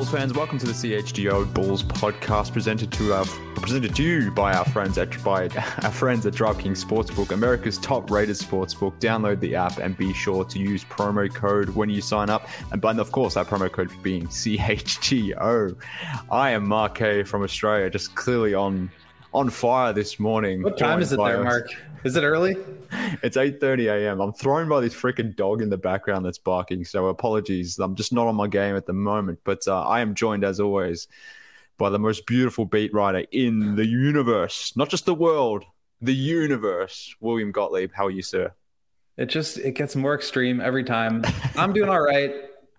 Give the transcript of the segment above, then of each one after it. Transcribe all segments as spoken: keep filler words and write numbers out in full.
Bulls fans, welcome to the C H G O Bulls podcast, presented to our presented to you by our friends at by our friends at DraftKings Sportsbook, America's top-rated sportsbook. Download the app and be sure to use promo code when you sign up, and but of course, our promo code being C H G O. I am Mark K from Australia, just clearly on on fire this morning. What time is it there, Mark? Is it early? It's eight thirty a.m. I'm thrown by this freaking dog in the background that's barking, so apologies. I'm just not on my game at the moment, but uh, I am joined, as always, by the most beautiful beat writer in the universe. Not just the world, the universe. William Gottlieb, how are you, sir? It just, it gets more extreme every time. I'm doing all right.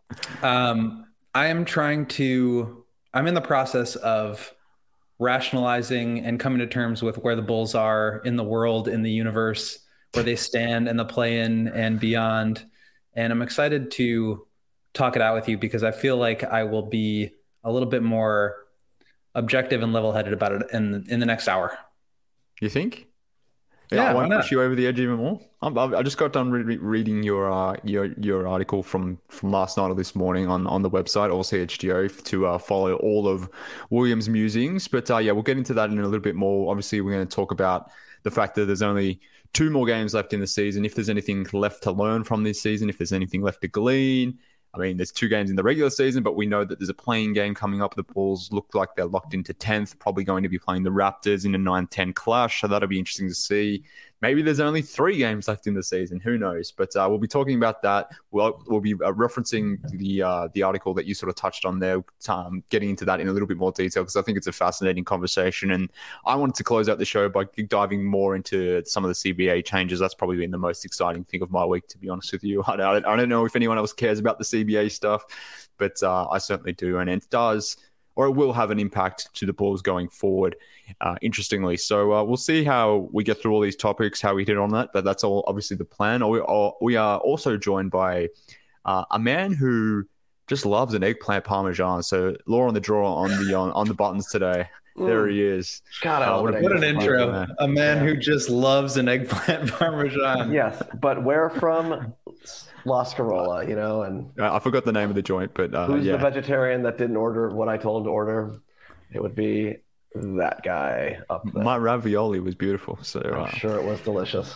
Um, I am trying to, I'm in the process of rationalizing and coming to terms with where the Bulls are in the world, in the universe, where they stand in the play-in and beyond. And I'm excited to talk it out with you because I feel like I will be a little bit more objective and level-headed about it in in the next hour. You think? Yeah, I why won't not? push you over the edge even more. I'm, I've- I just got done re- reading your uh, your your article from, from last night or this morning on, on the website, all C H G O, to uh, follow all of William's musings. But uh, yeah, we'll get into that in a little bit more. Obviously, we're going to talk about the fact that there's only two more games left in the season. If there's anything left to learn from this season, if there's anything left to glean. I mean, there's two games in the regular season, but we know that there's a playing game coming up. The Bulls look like they're locked into tenth, probably going to be playing the Raptors in a nine ten clash. So that'll be interesting to see. Maybe there's only three games left in the season. Who knows? But uh, we'll be talking about that. We'll, we'll be uh, referencing the uh, the article that you sort of touched on there, um, getting into that in a little bit more detail, because I think it's a fascinating conversation. And I wanted to close out the show by diving more into some of the C B A changes. That's probably been the most exciting thing of my week, to be honest with you. I don't, I don't know if anyone else cares about the C B A stuff, but uh, I certainly do. And it does, or it will have an impact to the Bulls going forward, uh, interestingly. So uh, we'll see how we get through all these topics, how we hit on that, but that's all obviously the plan. We are, we are also joined by uh, a man who just loves an eggplant parmesan. So Law on the draw on the on, on the buttons today. Mm. There he is. God, uh, what, what an intro. Man. A man yeah. who just loves an eggplant parmesan. Yes, but where from? La Scarola, you know, and I forgot the name of the joint, but uh, who's yeah. the vegetarian that didn't order what I told him to order? It would be that guy up there. My ravioli was beautiful, so I'm uh... sure it was delicious.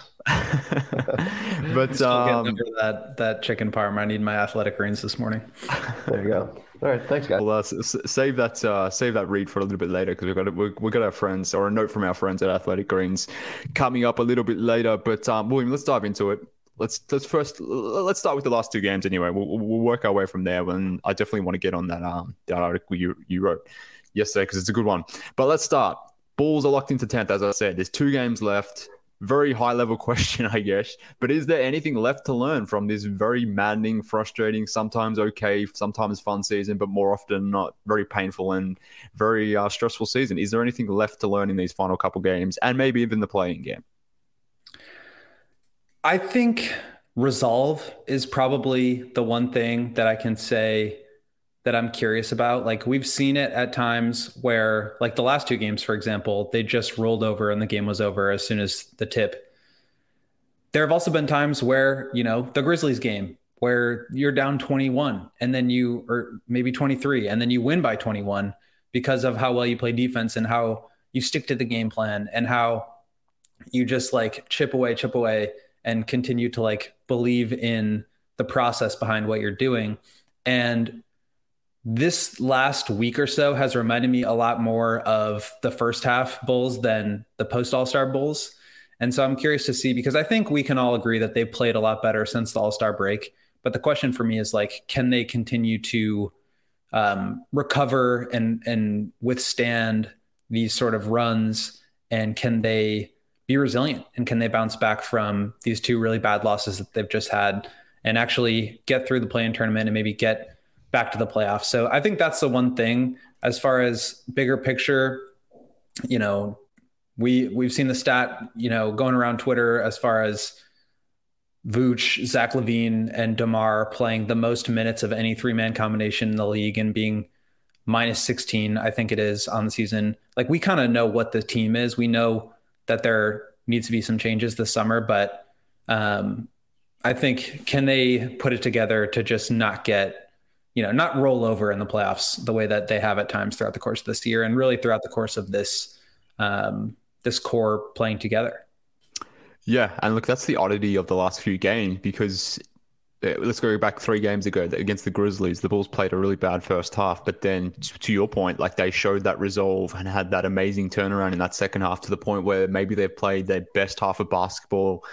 But um, over that that chicken parm. I need my athletic greens this morning. There you go. All right, thanks, guys. Well, uh, s- save that uh, save that read for a little bit later, because we've got we've, we've got our friends, or a note from our friends at Athletic Greens coming up a little bit later. But um, William, let's dive into it. Let's let's first let's start with the last two games anyway. We'll, we'll work our way from there. And I definitely want to get on that um that article you you wrote yesterday, because it's a good one. But let's start. Bulls are locked into tenth, as I said. There's two games left. Very high level question, I guess. But is there anything left to learn from this very maddening, frustrating, sometimes okay, sometimes fun season, but more often not, very painful and very uh, stressful season? Is there anything left to learn in these final couple games, and maybe even the playing game? I think resolve is probably the one thing that I can say that I'm curious about. Like, we've seen it at times where, like the last two games, for example, they just rolled over and the game was over as soon as the tip. There have also been times where, you know, the Grizzlies game where you're down twenty-one and then you, or maybe twenty-three, and then you win by twenty-one because of how well you play defense and how you stick to the game plan and how you just like chip away, chip away. and continue to like believe in the process behind what you're doing. And this last week or so has reminded me a lot more of the first half Bulls than the post All-Star Bulls. And so I'm curious to see, because I think we can all agree that they've played a lot better since the All-Star break. But the question for me is like, can they continue to um, recover and, and withstand these sort of runs? And can they be resilient, and can they bounce back from these two really bad losses that they've just had and actually get through the play-in tournament and maybe get back to the playoffs? So I think that's the one thing. As far as bigger picture, you know, we, we've seen the stat, you know, going around Twitter as far as Vooch, Zach LaVine, and DeMar playing the most minutes of any three-man combination in the league and being minus sixteen, I think it is, on the season. Like, we kind of know what the team is. We know that there needs to be some changes this summer, but um, I think, can they put it together to just not get you know, not roll over in the playoffs the way that they have at times throughout the course of this year and really throughout the course of this, um, this core playing together. Yeah. And look, that's the oddity of the last few games, because let's go back three games ago against the Grizzlies. The Bulls played a really bad first half, but then to your point, like they showed that resolve and had that amazing turnaround in that second half to the point where maybe they've played their best half of basketball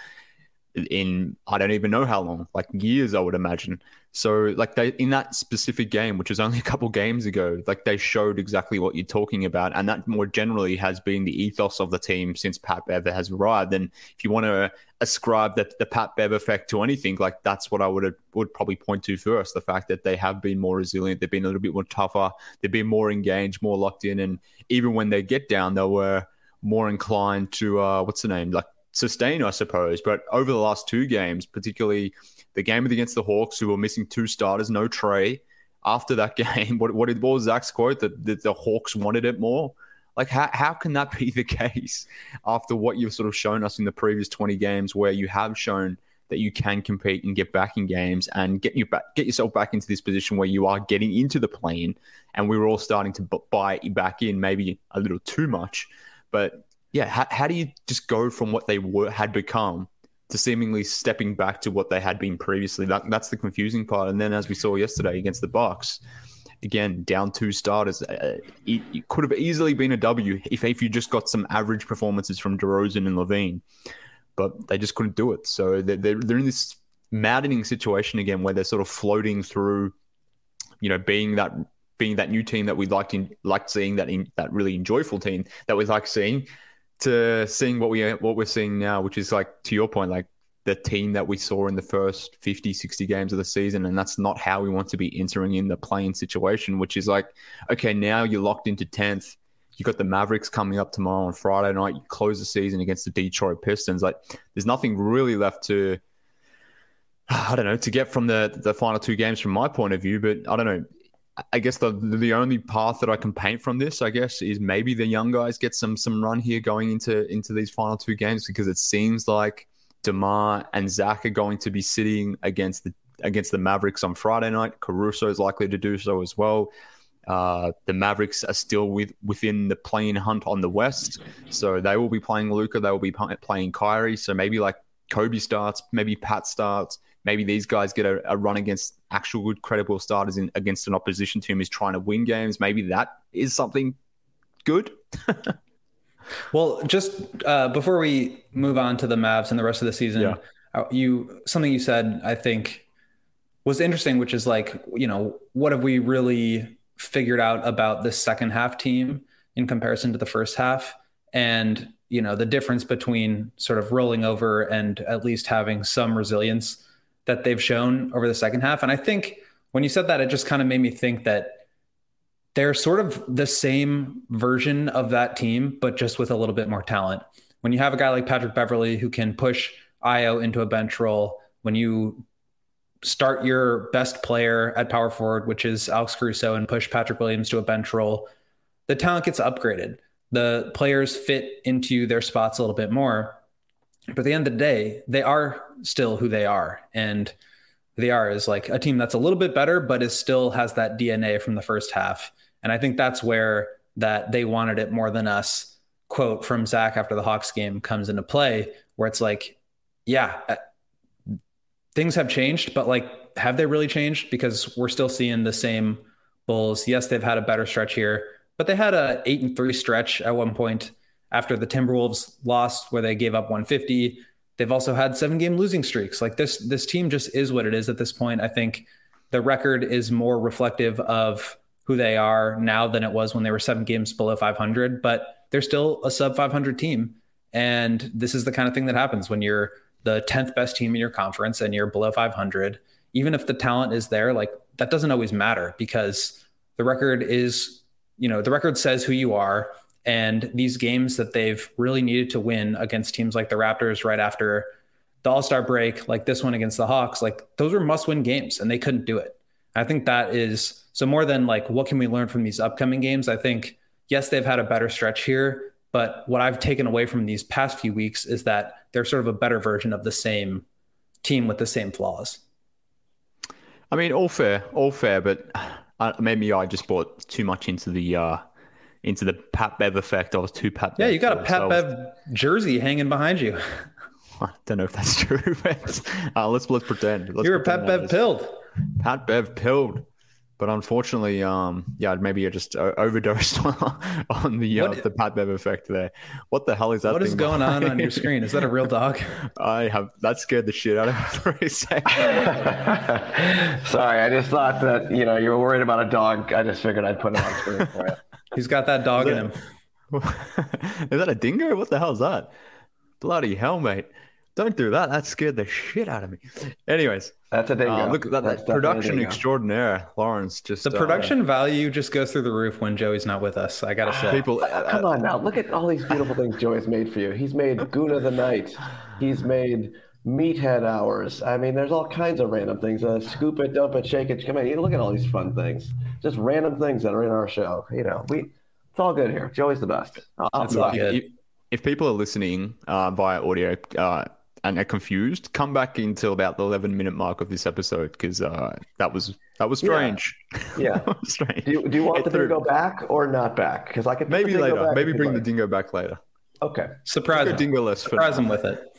in, I don't even know how long, like years, I would imagine. So like they, in that specific game, which was only a couple games ago, like they showed exactly what you're talking about. And that more generally has been the ethos of the team since Pat Bev has arrived. And if you want to ascribe that the Pat Bev effect to anything, like that's what I would would probably point to first. The fact that they have been more resilient, they've been a little bit more tougher, they've been more engaged, more locked in. And even when they get down, they were more inclined to, uh, what's the name? Like sustain, I suppose. But over the last two games, particularly the game against the Hawks, who were missing two starters, no Trey. After that game, what what, did, what was Zach's quote? That, that the Hawks wanted it more? Like, how, how can that be the case after what you've sort of shown us in the previous twenty games, where you have shown that you can compete and get back in games and get you back, get yourself back into this position where you are getting into the play-in, and we were all starting to buy back in, maybe a little too much. But yeah, how, how do you just go from what they were had become to seemingly stepping back to what they had been previously? That, that's the confusing part. And then as we saw yesterday against the Bucks, again, down two starters, uh, it, it could have easily been a W if, if you just got some average performances from DeRozan and Levine, but they just couldn't do it. So they're, they're, they're in this maddening situation again where they're sort of floating through, you know, being that being that new team that we liked in, liked seeing, that in, that really enjoyable team that we like seeing, to seeing what we what we're seeing now, which is, like, to your point, like the team that we saw in the first fifty, sixty games of the season. And that's not how we want to be entering in the playing situation, which is like, okay, now you're locked into tenth. You got the Mavericks coming up tomorrow on Friday night. You close the season against the Detroit Pistons. Like, there's nothing really left to, I don't know, to get from the the final two games from my point of view. But I don't know. I guess the the only path that I can paint from this, I guess, is maybe the young guys get some some run here going into into these final two games, because it seems like DeMar and Zach are going to be sitting against the against the Mavericks on Friday night. Caruso is likely to do so as well. Uh, the Mavericks are still with, within the play-in hunt on the West, so they will be playing Luka. They will be playing Kyrie. So maybe like Kobe starts, maybe Pat starts. Maybe these guys get a, a run against actual good, credible starters in, against an opposition team who's trying to win games. Maybe that is something good. Well, just uh, before we move on to the Mavs and the rest of the season, yeah. uh, you something you said, I think, was interesting, which is like, you know, what have we really figured out about this second half team in comparison to the first half? And, you know, the difference between sort of rolling over and at least having some resilience that they've shown over the second half. And I think when you said that, it just kind of made me think that they're sort of the same version of that team, but just with a little bit more talent. When you have a guy like Patrick Beverley who can push Io into a bench role, when you start your best player at power forward, which is Alex Caruso, and push Patrick Williams to a bench role, the talent gets upgraded. The players fit into their spots a little bit more. But at the end of the day, they are still who they are. And they are is like a team that's a little bit better, but is still has that D N A from the first half. And I think that's where that they wanted it more than us quote from Zach after the Hawks game comes into play, where it's like, yeah, things have changed, but like, have they really changed? Because we're still seeing the same Bulls. Yes, they've had a better stretch here, but they had a eight and three stretch at one point after the Timberwolves lost, where they gave up one fifty. They've also had seven game losing streaks. Like this, this team just is what it is at this point. I think the record is more reflective of who they are now than it was when they were seven games below five hundred, but they're still a sub five hundred team. And this is the kind of thing that happens when you're the tenth best team in your conference and you're below five hundred. Even if the talent is there, like that doesn't always matter, because the record is, you know, the record says who you are. And these games that they've really needed to win against teams like the Raptors right after the All-Star break, like this one against the Hawks, like those were must-win games and they couldn't do it. I think that is, so more than like, what can we learn from these upcoming games? I think, yes, they've had a better stretch here, but what I've taken away from these past few weeks is that they're sort of a better version of the same team with the same flaws. I mean, all fair, all fair, but uh, maybe I just bought too much into the uh, into the Pat Bev effect. I was too Pat. Yeah, Bev you got a filled, Pat so I was- Bev jersey hanging behind you. I don't know if that's true, but uh, let's let's pretend. Let's You were pretend Pat that Bev is- pilled. Pat Bev pilled, but unfortunately, um, yeah, maybe I just uh, overdosed on, on the uh, What- the Pat Bev effect there. What the hell is that? What is thing going on on behind your me? screen? Is that a real dog? I have that scared the shit out of me for a second. Sorry, I just thought that you know you were worried about a dog. I just figured I'd put it on screen for you. He's got that dog in him. Is that a dingo? What the hell is that? Bloody hell, mate! Don't do that. That scared the shit out of me. Anyways, That's a dingo. uh, look at that, That's that definitely a production dingo. extraordinaire, Lawrence. Just The uh, production value just goes through the roof when Joey's not with us. I gotta say. people. Oh, come on now, look at all these beautiful things Joey's made for you. He's made Goona the Night. He's made Meathead Hours. I mean, there's all kinds of random things. Uh, scoop it, dump it, shake it. Come on, you look at all these fun things. Just random things that are in our show. You know, we it's all good here. Joey's the best. I'll, I'll That's be all honest. good. if, if people are listening uh, via audio uh, and are confused, come back until about the eleven minute mark of this episode because uh, that was that was strange. Yeah. That was strange. Do you, do you want Get the through. dingo back or not back? Because I could put Maybe the dingo later. back Maybe if bring you'd the like. dingo back later. Okay. Surprise Go him. dingo less for Surprise him with it.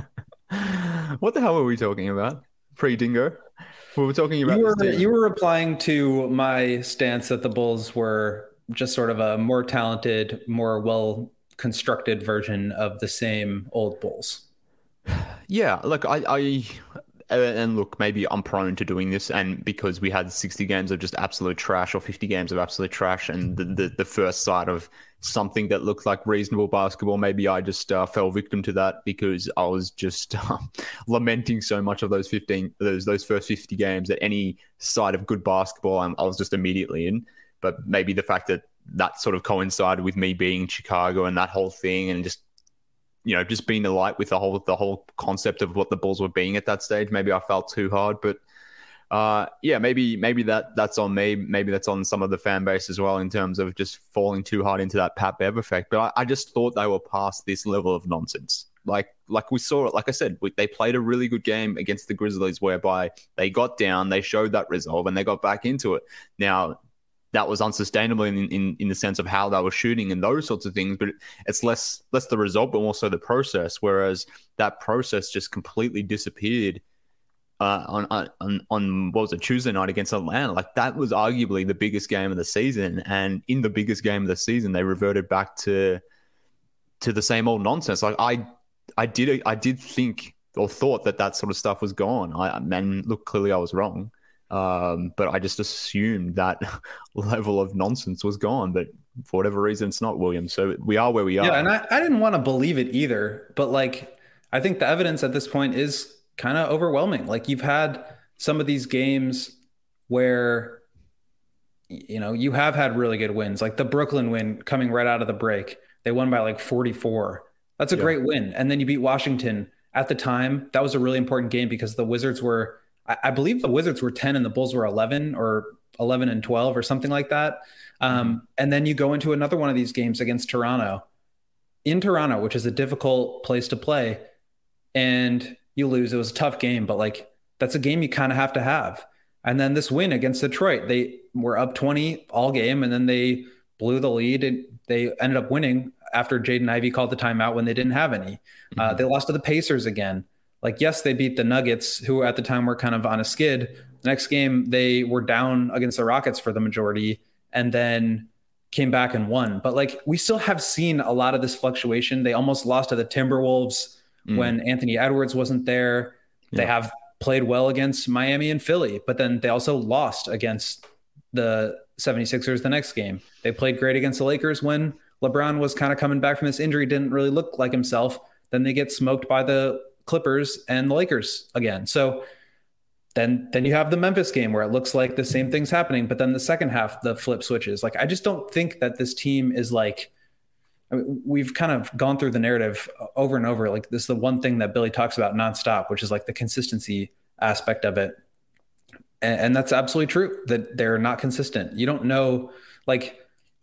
What the hell were we talking about? Pre-dingo? We were talking about You were this team. you were replying to my stance that the Bulls were just sort of a more talented, more well constructed version of the same old Bulls. Yeah, look, I, I, and look, maybe I'm prone to doing this, and because we had sixty games of just absolute trash or fifty games of absolute trash, and the the, the first sight of something that looked like reasonable basketball, maybe I just uh, fell victim to that because I was just um, lamenting so much of those fifteen, those those first fifty games that any side of good basketball, I'm, I was just immediately in. But maybe the fact that that sort of coincided with me being in Chicago and that whole thing, and just you know, just being alight with the whole the whole concept of what the Bulls were being at that stage. Maybe I felt too hard, but uh, yeah, maybe maybe that that's on me. Maybe that's on some of the fan base as well in terms of just falling too hard into that Pat Bev effect. But I, I just thought they were past this level of nonsense. Like like we saw it. Like I said, we, they played a really good game against the Grizzlies, whereby they got down, they showed that resolve, and they got back into it. Now, that was unsustainable in, in in the sense of how they were shooting and those sorts of things, but it's less less the result, but also the process. Whereas that process just completely disappeared uh, on on on what was it, Tuesday night against Atlanta. Like that was arguably the biggest game of the season, and in the biggest game of the season, they reverted back to to the same old nonsense. Like I I did I did think or thought that that sort of stuff was gone. I and look, clearly I was wrong. Um, but I just assumed that level of nonsense was gone. But for whatever reason, it's not, William. So we are where we are. Yeah, and I, I didn't want to believe it either. But like, I think the evidence at this point is kind of overwhelming. Like you've had some of these games where, you know, you have had really good wins, like the Brooklyn win coming right out of the break. They won by like forty-four. That's a Yeah. great win. And then you beat Washington at the time. That was a really important game because the Wizards were, I, I believe the Wizards were ten and the Bulls were eleven or eleven and twelve or something like that. Um, and then you go into another one of these games against Toronto in Toronto, which is a difficult place to play, and you lose. It was a tough game, but like that's a game you kind of have to have. And then this win against Detroit, they were up twenty all game, and then they blew the lead, and they ended up winning after Jaden Ivey called the timeout when they didn't have any. Mm-hmm. Uh, they lost to the Pacers again. Like, yes, they beat the Nuggets, who at the time were kind of on a skid. The next game, they were down against the Rockets for the majority, and then came back and won. But like, we still have seen a lot of this fluctuation. They almost lost to the Timberwolves mm. when Anthony Edwards wasn't there. Yeah. They have played well against Miami and Philly, but then they also lost against the seventy-sixers the next game. They played great against the Lakers when LeBron was kind of coming back from this injury, didn't really look like himself. Then they get smoked by the Clippers and the Lakers again. So then, then you have the Memphis game where it looks like the same thing's happening, but then the second half, the flip switches. Like, I just don't think that this team is like, I mean, we've kind of gone through the narrative over and over. Like, this is the one thing that Billy talks about nonstop, which is like the consistency aspect of it. And, and that's absolutely true, that they're not consistent. You don't know, like,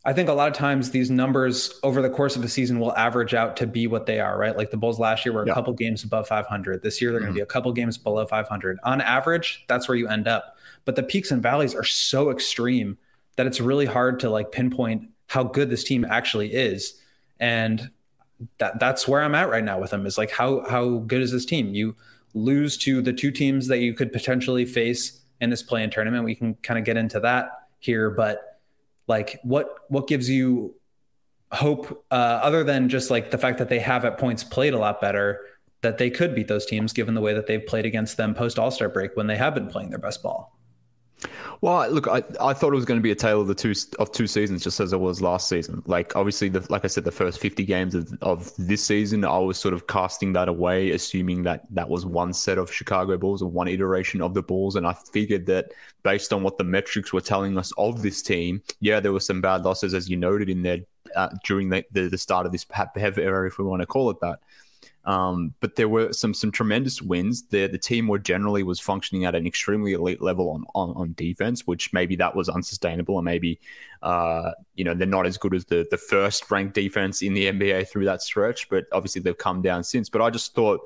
I think a lot of times these numbers over the course of a season will average out to be what they are, right? Like the Bulls last year were a Yeah. couple games above five hundred. This year, they're Mhm. going to be a couple games below five hundred. On average, that's where you end up. But the peaks and valleys are so extreme that it's really hard to like pinpoint how good this team actually is. And that that's where I'm at right now with them is like, how, how good is this team? You lose to the two teams that you could potentially face in this play-in tournament. We can kind of get into that here, but like what what gives you hope uh, other than just like the fact that they have at points played a lot better, that they could beat those teams given the way that they've played against them post All-Star break when they have been playing their best ball? Well, look, I, I thought it was going to be a tale of the two of two seasons, just as it was last season. Like, obviously, the, like I said, the first fifty games of, of this season, I was sort of casting that away, assuming that that was one set of Chicago Bulls or one iteration of the Bulls. And I figured that based on what the metrics were telling us of this team, yeah, there were some bad losses, as you noted in there uh, during the, the, the start of this Pat Bev era, if we want to call it that. Um, but there were some some tremendous wins. The the team more generally was functioning at an extremely elite level on, on, on defense, which maybe that was unsustainable, and maybe uh, you know they're not as good as the the first ranked defense in the N B A through that stretch. But obviously they've come down since. But I just thought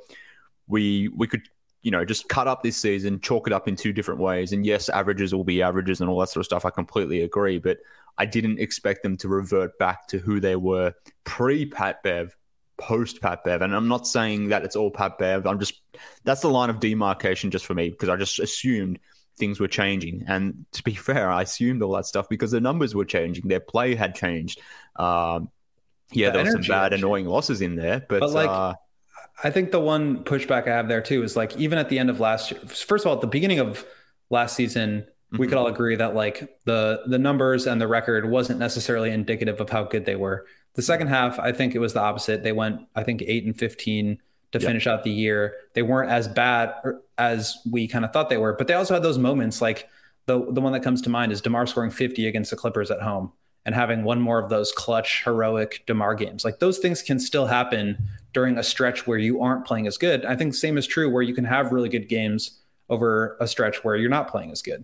we we could you know just cut up this season, chalk it up in two different ways. And yes, averages will be averages and all that sort of stuff. I completely agree, but I didn't expect them to revert back to who they were pre Pat Bev. Post Pat Bev, and I'm not saying that it's all Pat Bev. I'm just that's the line of demarcation just for me because I just assumed things were changing. And to be fair, I assumed all that stuff because the numbers were changing, their play had changed. Um, yeah, the there were some bad, annoying losses in there, but, but like, uh, I think the one pushback I have there too is like even at the end of last year. First of all, at the beginning of last season, we mm-hmm. could all agree that like the the numbers and the record wasn't necessarily indicative of how good they were. The second half, I think it was the opposite. They went, I think, eight and fifteen to yep. finish out the year. They weren't as bad as we kind of thought they were, but they also had those moments. Like the the one that comes to mind is DeMar scoring fifty against the Clippers at home and having one more of those clutch, heroic DeMar games. Like those things can still happen during a stretch where you aren't playing as good. I think the same is true where you can have really good games over a stretch where you're not playing as good,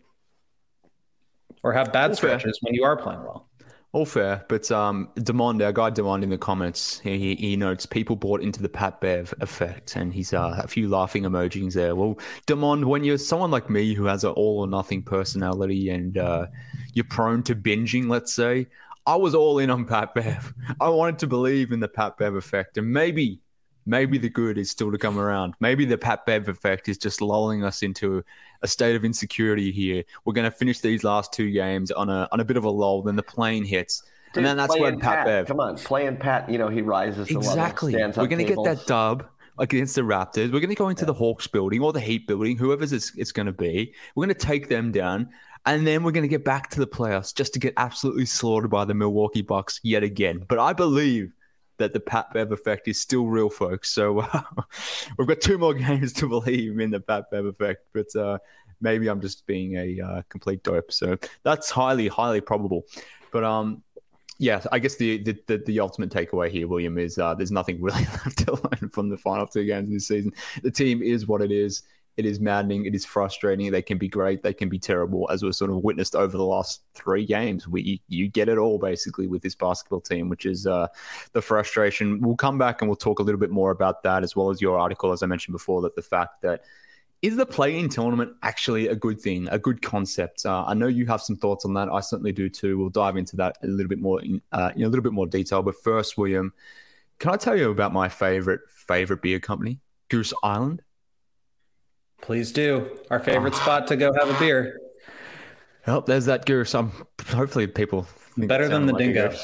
or have bad All stretches fair. when you are playing well. All fair, but um, Demond, our guy Demond in the comments, he, he notes people bought into the Pat Bev effect, and he's uh, a few laughing emojis there. Well, Demond, when you're someone like me who has an all or nothing personality and uh, you're prone to binging, let's say, I was all in on Pat Bev. I wanted to believe in the Pat Bev effect, and maybe, maybe the good is still to come around. Maybe the Pat Bev effect is just lulling us into a state of insecurity here. We're going to finish these last two games on a on a bit of a lull. Then the plane hits, Dude, and then that's where Pat, Pat Bev. Come on, playing Pat. You know he rises. Exactly. To level, We're going to get that dub against the Raptors. We're going to go into yeah. the Hawks building or the Heat building, whoever's it's, it's going to be. We're going to take them down, and then we're going to get back to the playoffs just to get absolutely slaughtered by the Milwaukee Bucks yet again. But I believe that the Pat Bev effect is still real, folks. So uh, we've got two more games to believe in the Pat Bev effect, but uh, maybe I'm just being a uh, complete dope. So that's highly, highly probable. But um, yeah, I guess the the, the, the ultimate takeaway here, William, is uh, there's nothing really left to learn from the final two games this season. The team is what it is. It is maddening. It is frustrating. They can be great. They can be terrible, as we've sort of witnessed over the last three games. We you get it all basically with this basketball team, which is uh, the frustration. We'll come back and we'll talk a little bit more about that, as well as your article, as I mentioned before, that the fact that is the play-in tournament actually a good thing, a good concept? Uh, I know you have some thoughts on that. I certainly do too. We'll dive into that a little bit more in, uh, in a little bit more detail. But first, William, can I tell you about my favorite favorite beer company, Goose Island? Please do. Our favorite oh. spot to go have a beer. Well, there's that goose. Um, hopefully people think better than the like dingo.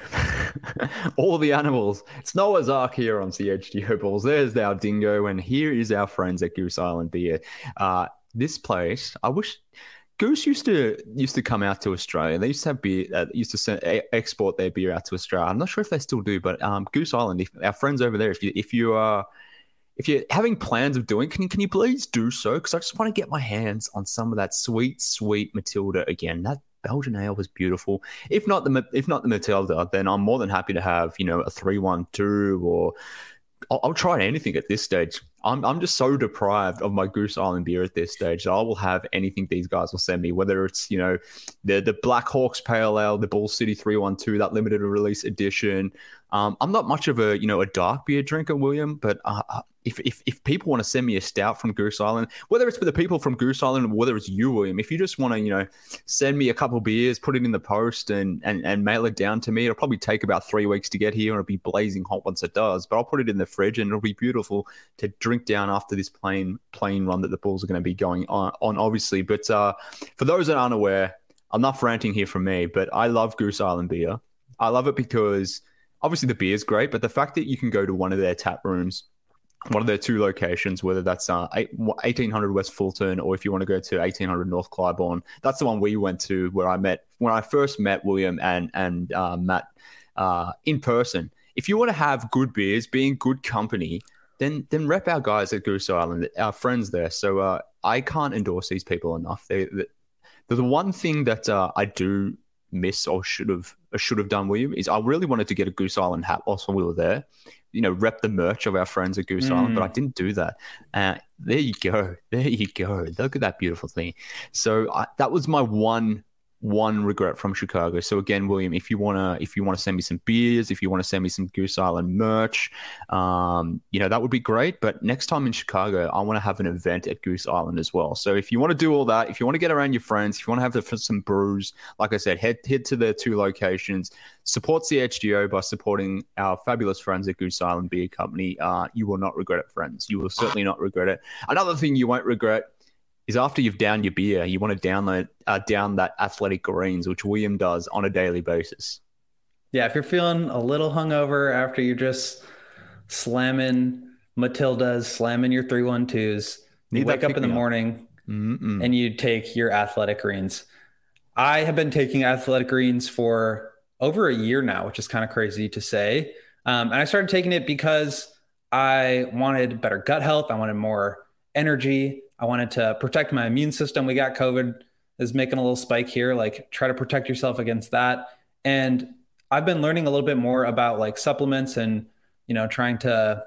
All the animals. It's Noah's Ark here on C H G O Balls. There's our dingo, and here is our friends at Goose Island Beer. Uh, this place, I wish Goose used to used to come out to Australia. They used to have beer. Uh, used to send, uh, export their beer out to Australia. I'm not sure if they still do, but um, Goose Island. If, our friends over there, if you if you are if you're having plans of doing, can you can you please do so? Because I just want to get my hands on some of that sweet, sweet Matilda again. That Belgian ale was beautiful. If not the if not the Matilda, then I'm more than happy to have, you know, a three one two or I'll, I'll try anything at this stage. I'm I'm just so deprived of my Goose Island beer at this stage that I will have anything these guys will send me, whether it's, you know, the the Black Hawks Pale Ale, the Bull City three one two, that limited release edition. Um, I'm not much of a, you know, a dark beer drinker, William, but uh, if, if if people want to send me a stout from Goose Island, whether it's for the people from Goose Island or whether it's you, William, if you just want to, you know, send me a couple of beers, put it in the post and, and, and mail it down to me, it'll probably take about three weeks to get here and it'll be blazing hot once it does, but I'll put it in the fridge and it'll be beautiful to drink down after this plane plane run that the Bulls are going to be going on, on obviously. But uh, for those that aren't aware, I'm not ranting here from me, but I love Goose Island beer. I love it because obviously the beer is great, but the fact that you can go to one of their tap rooms, one of their two locations, whether that's uh, eighteen hundred West Fulton or if you want to go to eighteen hundred North Clybourne, that's the one we went to where I met, when I first met William and, and uh, Matt uh, in person. If you want to have good beers, being good company, then then rep our guys at Goose Island, our friends there. So uh, I can't endorse these people enough. They, they, the one thing that uh, I do miss or should have or should have done, William, is I really wanted to get a Goose Island hat whilst we were there. You know, rep the merch of our friends at Goose mm. Island, but I didn't do that. Uh, there you go. There you go. Look at that beautiful thing. So I, that was my one one regret from Chicago. So again, William, if you wanna if you wanna send me some beers, if you want to send me some Goose Island merch, um, you know, that would be great. But next time in Chicago, I want to have an event at Goose Island as well. So if you want to do all that, if you want to get around your friends, if you want to have the, some brews, like I said, head head to their two locations. Support C H G O by supporting our fabulous friends at Goose Island Beer Company. Uh, you will not regret it, friends. You will certainly not regret it. Another thing you won't regret is after you've downed your beer, you want to download uh, down that Athletic Greens, which William does on a daily basis. Yeah, if you're feeling a little hungover after you're just slamming Matildas, slamming your three one twos, you wake up in the morning Mm-mm. and you take your Athletic Greens. I have been taking Athletic Greens for over a year now, which is kind of crazy to say. Um, and I started taking it because I wanted better gut health. I wanted more energy. I wanted to protect my immune system. We got COVID is making a little spike here. Like, try to protect yourself against that. And I've been learning a little bit more about like supplements and, you know, trying to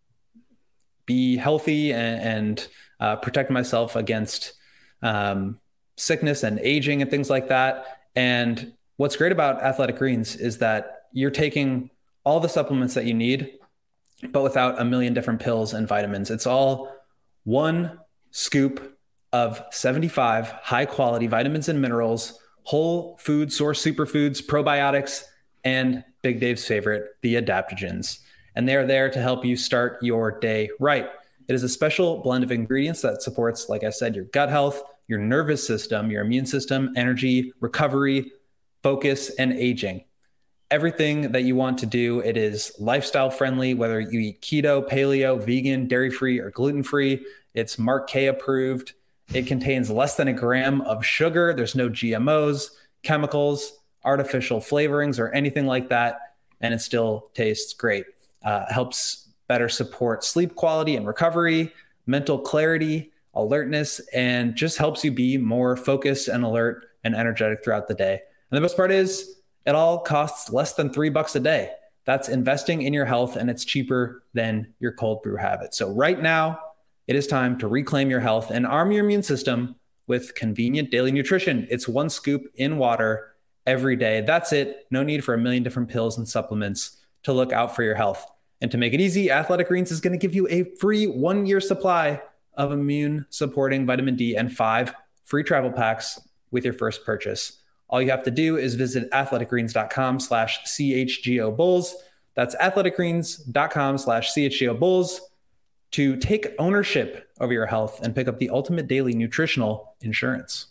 be healthy and, and uh, protect myself against um, sickness and aging and things like that. And what's great about Athletic Greens is that you're taking all the supplements that you need, but without a million different pills and vitamins. It's all one scoop of seventy-five high quality vitamins and minerals, whole food source superfoods, probiotics, and Big Dave's favorite, the adaptogens. And they're there to help you start your day right. It is a special blend of ingredients that supports, like I said, your gut health, your nervous system, your immune system, energy, recovery, focus, and aging. Everything that you want to do. It is lifestyle friendly, whether you eat keto, paleo, vegan, dairy-free, or gluten-free. It's Mark K approved. It contains less than a gram of sugar. There's no G M Os, chemicals, artificial flavorings, or anything like that. And it still tastes great. Uh, helps better support sleep quality and recovery, mental clarity, alertness, and just helps you be more focused and alert and energetic throughout the day. And the best part is it all costs less than three bucks a day. That's investing in your health, and it's cheaper than your cold brew habit. So right now, it is time to reclaim your health and arm your immune system with convenient daily nutrition. It's one scoop in water every day. That's it. No need for a million different pills and supplements to look out for your health. And to make it easy, Athletic Greens is going to give you a free one-year supply of immune-supporting vitamin D and five free travel packs with your first purchase. All you have to do is visit athleticgreens.com slash CHGO Bulls. That's athleticgreens.com slash CHGO Bulls to take ownership over your health and pick up the ultimate daily nutritional insurance.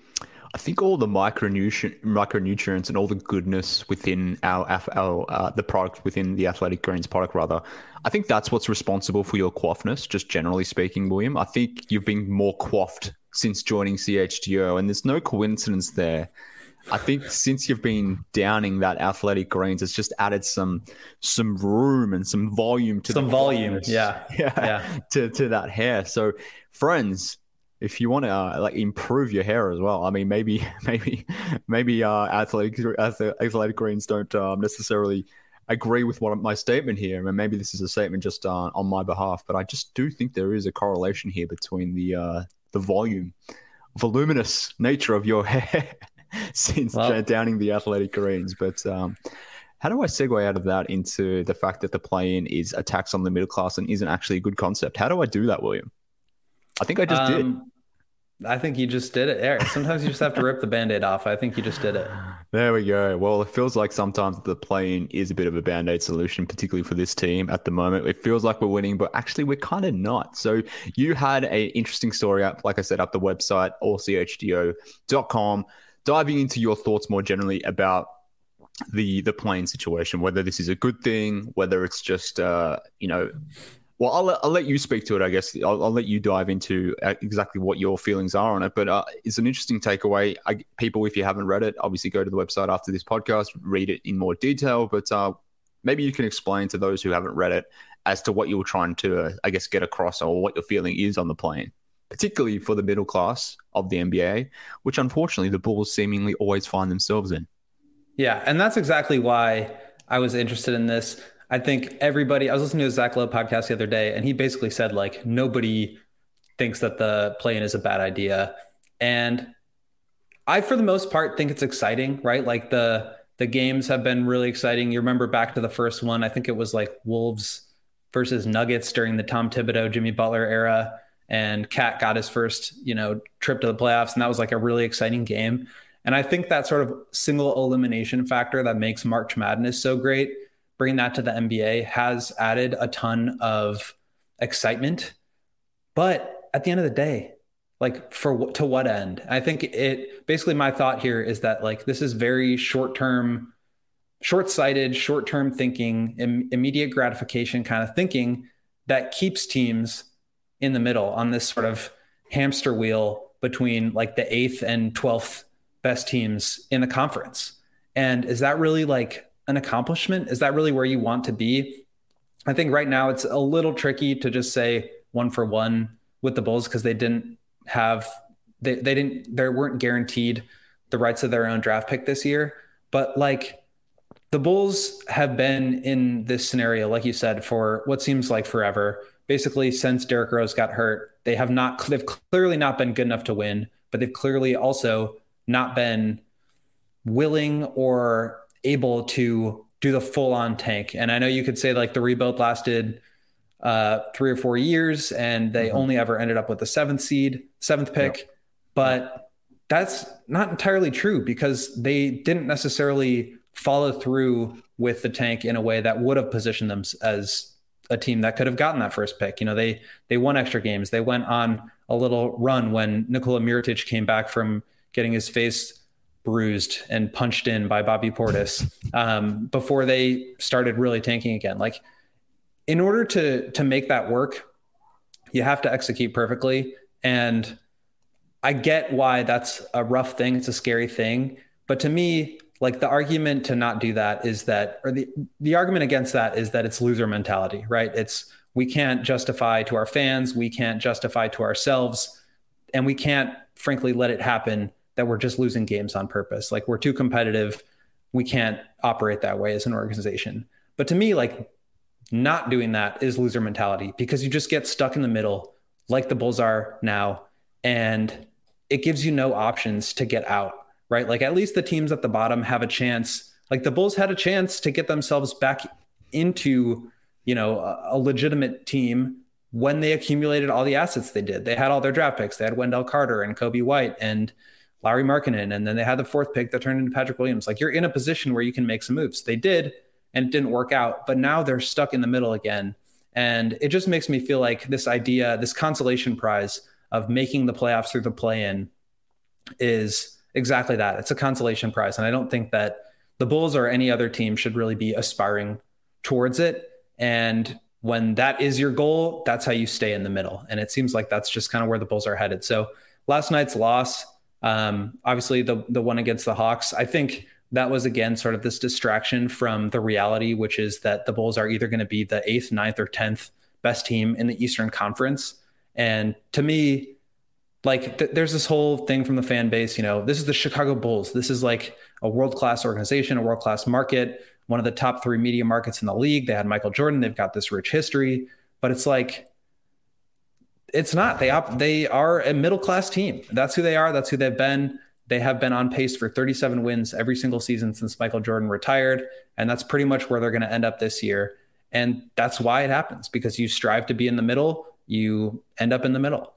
I think all the micronutri- micronutrients and all the goodness within our, our uh, the product within the Athletic Greens product, rather, I think that's what's responsible for your quaffness, just generally speaking, William. I think you've been more quaffed since joining C H G O, and there's no coincidence there. I think since you've been downing that Athletic Greens, it's just added some some room and some volume to some the volume, quaffness. yeah, yeah, yeah, to to that hair. So, friends, if you want to uh, like improve your hair as well, I mean, maybe maybe maybe uh, athletic athletic greens don't um, necessarily agree with what my statement here, and maybe this is a statement just uh, on my behalf, but I just do think there is a correlation here between the uh, the volume, voluminous nature of your hair since well, downing the athletic greens. But um, how do I segue out of that into the fact that the play-in is a tax on the middle class and isn't actually a good concept? How do I do that, William? I think I just um, did. I think you just did it, Eric. Sometimes you just have to rip the Band-Aid off. I think you just did it. There we go. Well, it feels like sometimes the play-in is a bit of a Band-Aid solution, particularly for this team at the moment. It feels like we're winning, but actually we're kind of not. So you had an interesting story up, like I said, up the website, all c h d o dot com, diving into your thoughts more generally about the the play-in situation, whether this is a good thing, whether it's just, uh, you know, well, I'll let, I'll let you speak to it, I guess. I'll, I'll let you dive into exactly what your feelings are on it. But uh, it's an interesting takeaway. I, people, if you haven't read it, obviously go to the website after this podcast, read it in more detail. But uh, maybe you can explain to those who haven't read it as to what you were trying to, uh, I guess, get across or what your feeling is on the play-in, particularly for the middle class of the N B A, which unfortunately the Bulls seemingly always find themselves in. Yeah, and that's exactly why I was interested in this. I think everybody, I was listening to a Zach Lowe podcast the other day, and he basically said, like, nobody thinks that the play-in is a bad idea. And I, for the most part, think it's exciting, right? Like the the games have been really exciting. You remember back to the first one, I think it was like Wolves versus Nuggets during the Tom Thibodeau, Jimmy Butler era. And Cat got his first, you know, trip to the playoffs. And that was like a really exciting game. And I think that sort of single elimination factor that makes March Madness so great, bringing that to the N B A, has added a ton of excitement. But at the end of the day, like for to what end? I think it basically, my thought here is that like this is very short-term, short-sighted, short-term thinking, im- immediate gratification kind of thinking that keeps teams in the middle on this sort of hamster wheel between like the eighth and twelfth best teams in the conference. And is that really like an accomplishment? Is that really where you want to be? I think right now it's a little tricky to just say one for one with the Bulls because they didn't have, they, they didn't, they weren't guaranteed the rights of their own draft pick this year. But like the Bulls have been in this scenario, like you said, for what seems like forever. Basically, since Derrick Rose got hurt, they have not, they've clearly not been good enough to win, but they've clearly also not been willing or able to do the full on tank. And I know you could say like the rebuild lasted uh, three or four years and they mm-hmm. only ever ended up with the seventh seed, seventh pick, yep. but that's not entirely true because they didn't necessarily follow through with the tank in a way that would have positioned them as a team that could have gotten that first pick. You know, they, they won extra games. They went on a little run when Nikola Mirotic came back from getting his face bruised and punched in by Bobby Portis um, before they started really tanking again. Like in order to, to make that work, you have to execute perfectly. And I get why that's a rough thing. It's a scary thing. But to me, like the argument to not do that is that, or the, the argument against that is that it's loser mentality, right? It's, we can't justify to our fans, we can't justify to ourselves, and we can't frankly let it happen that we're just losing games on purpose. Like we're too competitive. We can't operate that way as an organization. But to me, like not doing that is loser mentality because you just get stuck in the middle like the Bulls are now. And it gives you no options to get out, right? Like at least the teams at the bottom have a chance. Like the Bulls had a chance to get themselves back into, you know, a, a legitimate team when they accumulated all the assets they did. They had all their draft picks. They had Wendell Carter and Kobe White and Larry Markkinen, and then they had the fourth pick that turned into Patrick Williams. Like you're in a position where you can make some moves. They did, and it didn't work out, but now they're stuck in the middle again. And it just makes me feel like this idea, this consolation prize of making the playoffs through the play-in is exactly that. It's a consolation prize. And I don't think that the Bulls or any other team should really be aspiring towards it. And when that is your goal, that's how you stay in the middle. And it seems like that's just kind of where the Bulls are headed. So last night's loss, Um, obviously the the one against the Hawks, I think that was again sort of this distraction from the reality, which is that the Bulls are either going to be the eighth, ninth, or tenth best team in the Eastern Conference. And to me, like th- there's this whole thing from the fan base, you know, this is the Chicago Bulls. This is like a world-class organization, a world-class market. one of the top three media markets in the league. They had Michael Jordan. They've got this rich history, but it's like, it's not. They op- they are a middle-class team. That's who they are. That's who they've been. They have been on pace for thirty-seven wins every single season since Michael Jordan retired. And that's pretty much where they're going to end up this year. And that's why it happens, because you strive to be in the middle, you end up in the middle.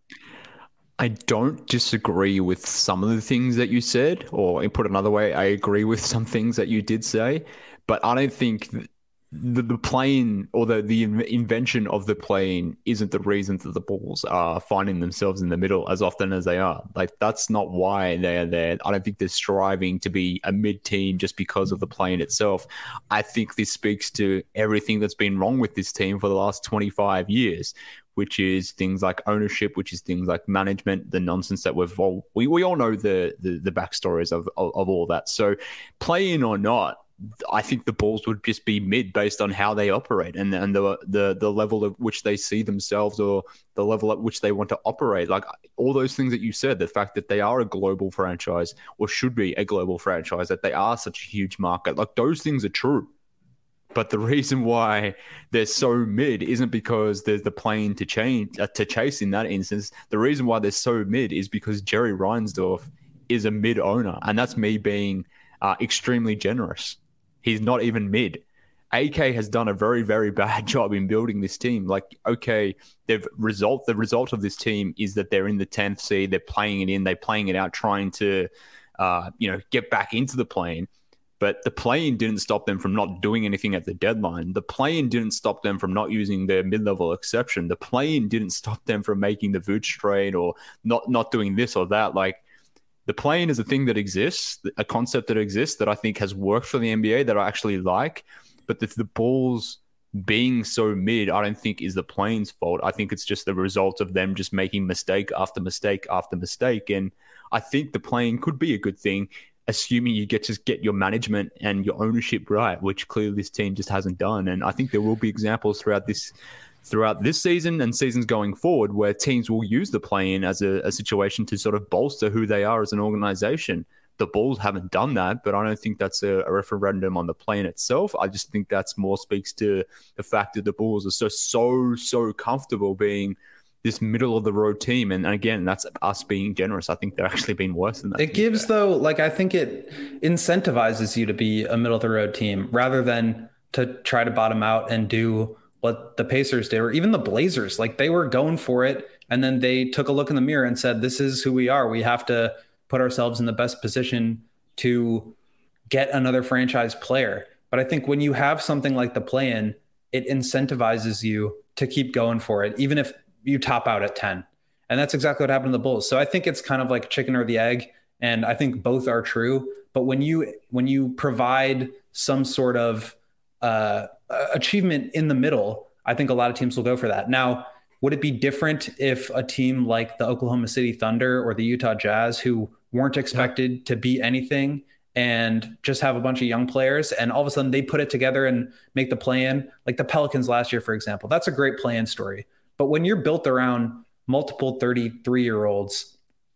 I don't disagree with some of the things that you said, or put another way, I agree with some things that you did say, but I don't think the, the plane or the, the invention of the plane isn't the reason that the Bulls are finding themselves in the middle as often as they are. Like, that's not why they're there. I don't think they're striving to be a mid team just because of the plane itself. I think this speaks to everything that's been wrong with this team for the last twenty-five years, which is things like ownership, which is things like management, the nonsense that we've all, we, we all know the, the, the backstories of, of, of all that. So play in or not, I think the Bulls would just be mid based on how they operate and, and the, the the level at which they see themselves, or the level at which they want to operate. Like all those things that you said, the fact that they are a global franchise, or should be a global franchise, that they are such a huge market, like those things are true. But the reason why they're so mid isn't because there's the plane to change uh, to chase in that instance. The reason why they're so mid is because Jerry Reinsdorf is a mid owner, and that's me being uh, extremely generous. He's not even mid. A K has done a very, very bad job in building this team. Like, okay, they've result. The result of this team is that they're in the tenth seed. They're playing it in. They're playing it out, trying to, uh, you know, get back into the play-in. But the play-in didn't stop them from not doing anything at the deadline. The play-in didn't stop them from not using their mid-level exception. The play-in didn't stop them from making the Vooch trade or not not doing this or that. Like, the play-in is a thing that exists, a concept that exists that I think has worked for the N B A that I actually like. But the, the Bulls being so mid, I don't think is the play-in's fault. I think it's just the result of them just making mistake after mistake after mistake. And I think the play-in could be a good thing, assuming you get to get your management and your ownership right, which clearly this team just hasn't done. And I think there will be examples throughout this throughout this season and seasons going forward where teams will use the play-in as a, a situation to sort of bolster who they are as an organization. The Bulls haven't done that, but I don't think that's a, a referendum on the play-in itself. I just think that's more speaks to the fact that the Bulls are so, so, so comfortable being this middle of the road team. And again, that's us being generous. I think they're actually been worse than that. It gives though, like, I think it incentivizes you to be a middle of the road team rather than to try to bottom out and do what the Pacers did, or even the Blazers. Like, they were going for it. And then they took a look in the mirror and said, this is who we are. We have to put ourselves in the best position to get another franchise player. But I think when you have something like the play-in, it incentivizes you to keep going for it, even if you top out at ten. And that's exactly what happened to the Bulls. So I think it's kind of like chicken or the egg. And I think both are true. But when you when you provide some sort of uh, achievement in the middle, I think a lot of teams will go for that. Now, would it be different if a team like the Oklahoma City Thunder or the Utah Jazz, who weren't expected yeah. to be anything and just have a bunch of young players, and all of a sudden they put it together and make the play-in, like the Pelicans last year, for example? That's a great play-in story. But when you're built around multiple thirty-three-year-olds,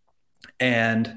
and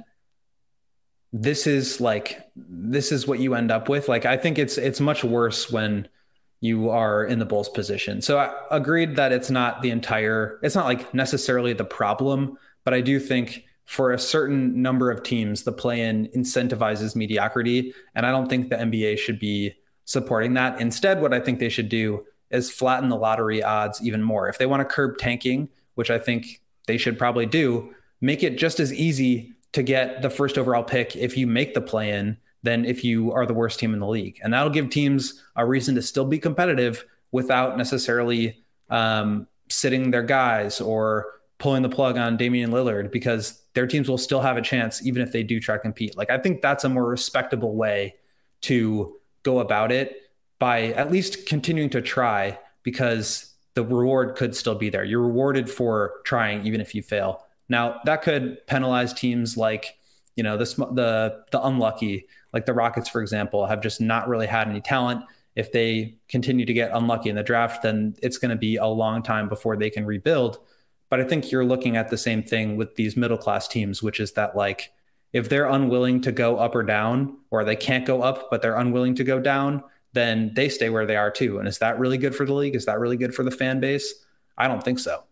this is like, this is what you end up with, like, I think it's it's much worse when you are in the Bulls position. So I agreed that it's not the entire, it's not like necessarily the problem, but I do think for a certain number of teams, the play-in incentivizes mediocrity. And I don't think the N B A should be supporting that. Instead, what I think they should do is flatten the lottery odds even more. If they want to curb tanking, which I think they should probably do, make it just as easy to get the first overall pick if you make the play-in than if you are the worst team in the league. And that'll give teams a reason to still be competitive without necessarily um, sitting their guys or pulling the plug on Damian Lillard, because their teams will still have a chance even if they do try to compete. Like, I think that's a more respectable way to go about it, by at least continuing to try, because the reward could still be there. You're rewarded for trying even if you fail. Now, that could penalize teams like, you know, the the the unlucky, like the Rockets, for example, have just not really had any talent. If they continue to get unlucky in the draft, then it's going to be a long time before they can rebuild. But I think you're looking at the same thing with these middle-class teams, which is that, like, if they're unwilling to go up or down, or they can't go up, but they're unwilling to go down, then they stay where they are too. And is that really good for the league? Is that really good for the fan base? I don't think so.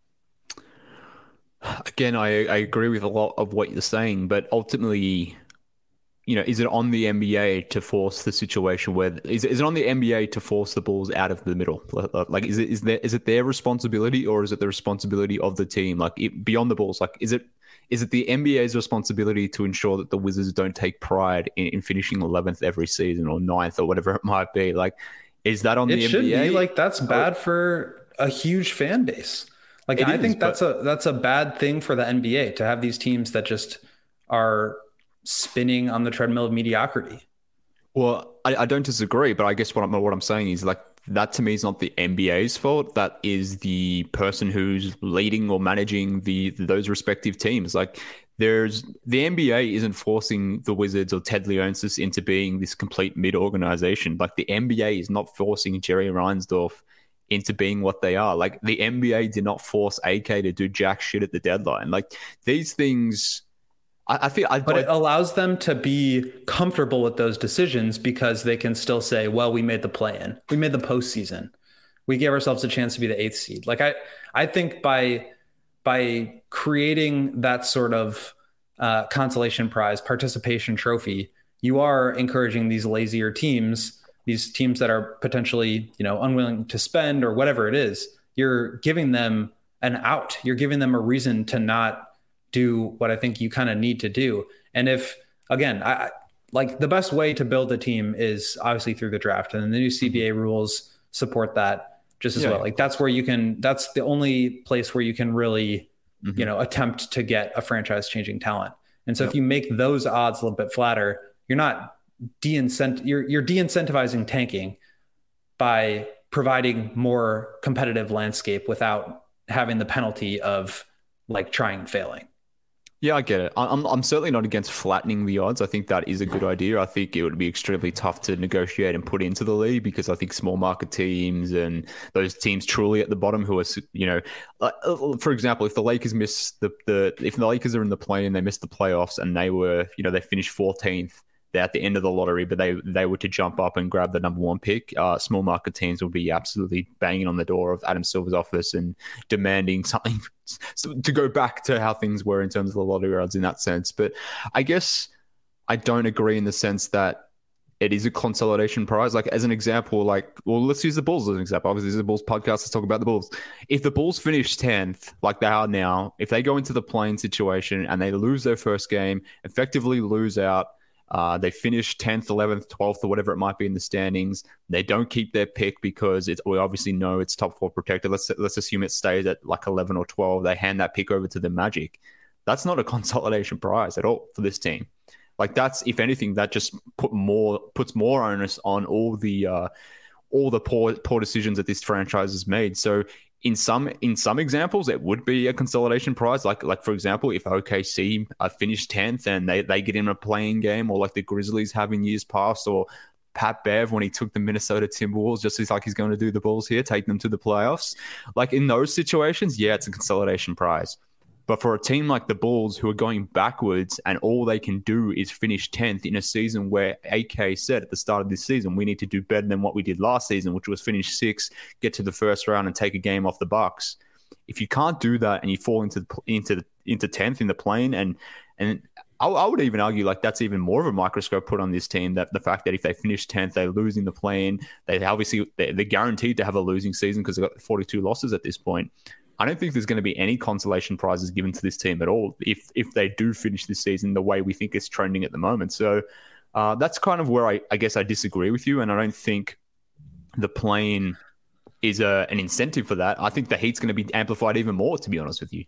Again, I, I agree with a lot of what you're saying, but ultimately, you know, is it on the N B A to force the situation where is is it on the N B A to force the Bulls out of the middle? Like, is it is there is it their responsibility, or is it the responsibility of the team? Like, it, beyond the Bulls, like, is it is it the N B A's responsibility to ensure that the Wizards don't take pride in, in finishing eleventh every season or ninth or whatever it might be? Like, is that on it the should N B A? Be like that's bad or, for a huge fan base. Like, I is, think that's but... a that's a bad thing for the N B A to have these teams that just are spinning on the treadmill of mediocrity. Well, I, I don't disagree, but I guess what I'm what I'm saying is, like, that to me is not the N B A's fault. That is the person who's leading or managing the those respective teams. Like, there's the N B A isn't forcing the Wizards or Ted Leonsis into being this complete mid organization. Like, the N B A is not forcing Jerry Reinsdorf into being what they are. Like, the N B A did not force A K to do jack shit at the deadline. Like, these things, I, I feel... I, but I, it allows them to be comfortable with those decisions because they can still say, well, we made the play-in. We made the postseason. We gave ourselves a chance to be the eighth seed. Like, I, I think by, by creating that sort of uh, consolation prize, participation trophy, you are encouraging these lazier teams, these teams that are potentially, you know, unwilling to spend or whatever it is. You're giving them an out. You're giving them a reason to not do what I think you kind of need to do. And if, again, I like the best way to build a team is obviously through the draft, and the new C B A rules support that just as yeah. well. Like, that's where you can, that's the only place where you can really, mm-hmm. you know, attempt to get a franchise changing talent. And so yep. if you make those odds a little bit flatter, you're not de-incent you're you're de-incentivizing tanking by providing more competitive landscape without having the penalty of like trying and failing. Yeah, I get it. I'm I'm certainly not against flattening the odds. I think that is a good idea. I think it would be extremely tough to negotiate and put into the league because I think small market teams and those teams truly at the bottom who are, you know, uh, for example, if the Lakers miss the, the if the Lakers are in the play and they miss the playoffs and they were, you know, they finished fourteenth, they're at the end of the lottery, but they they were to jump up and grab the number one pick, uh, small market teams will be absolutely banging on the door of Adam Silver's office and demanding something to go back to how things were in terms of the lottery odds in that sense. But I guess I don't agree in the sense that it is a consolidation prize. Like, as an example, like, well, let's use the Bulls as an example. Obviously, this is a Bulls podcast. Let's talk about the Bulls. If the Bulls finish tenth, like they are now, if they go into the play-in situation and they lose their first game, effectively lose out, Uh, they finish tenth, eleventh, twelfth, or whatever it might be in the standings. They don't keep their pick because it's, we obviously know it's top four protected. Let's let's assume it stays at like eleven or twelve. They hand that pick over to the Magic. That's not a consolidation prize at all for this team. Like, that's, if anything, that just put more puts more onus on all the uh, all the poor poor decisions that this franchise has made. So in some in some examples, it would be a consolidation prize. Like, like for example, if O K C uh, finished tenth and they, they get in a playing game, or like the Grizzlies have in years past, or Pat Bev when he took the Minnesota Timberwolves, just as like he's going to do the Bulls here, take them to the playoffs. Like, in those situations, yeah, it's a consolidation prize. But for a team like the Bulls, who are going backwards and all they can do is finish tenth in a season where A K said at the start of this season, we need to do better than what we did last season, which was finish sixth, get to the first round and take a game off the Bucks. If you can't do that and you fall into into into tenth in the plane, and and I, I would even argue like that's even more of a microscope put on this team, that the fact that if they finish tenth, they lose in the plane, they obviously they're, they're guaranteed to have a losing season because they've got forty-two losses at this point. I don't think there's going to be any consolation prizes given to this team at all if if they do finish this season the way we think it's trending at the moment. So uh, that's kind of where I, I guess I disagree with you, and I don't think the play-in is a, an incentive for that. I think the heat's going to be amplified even more, to be honest with you.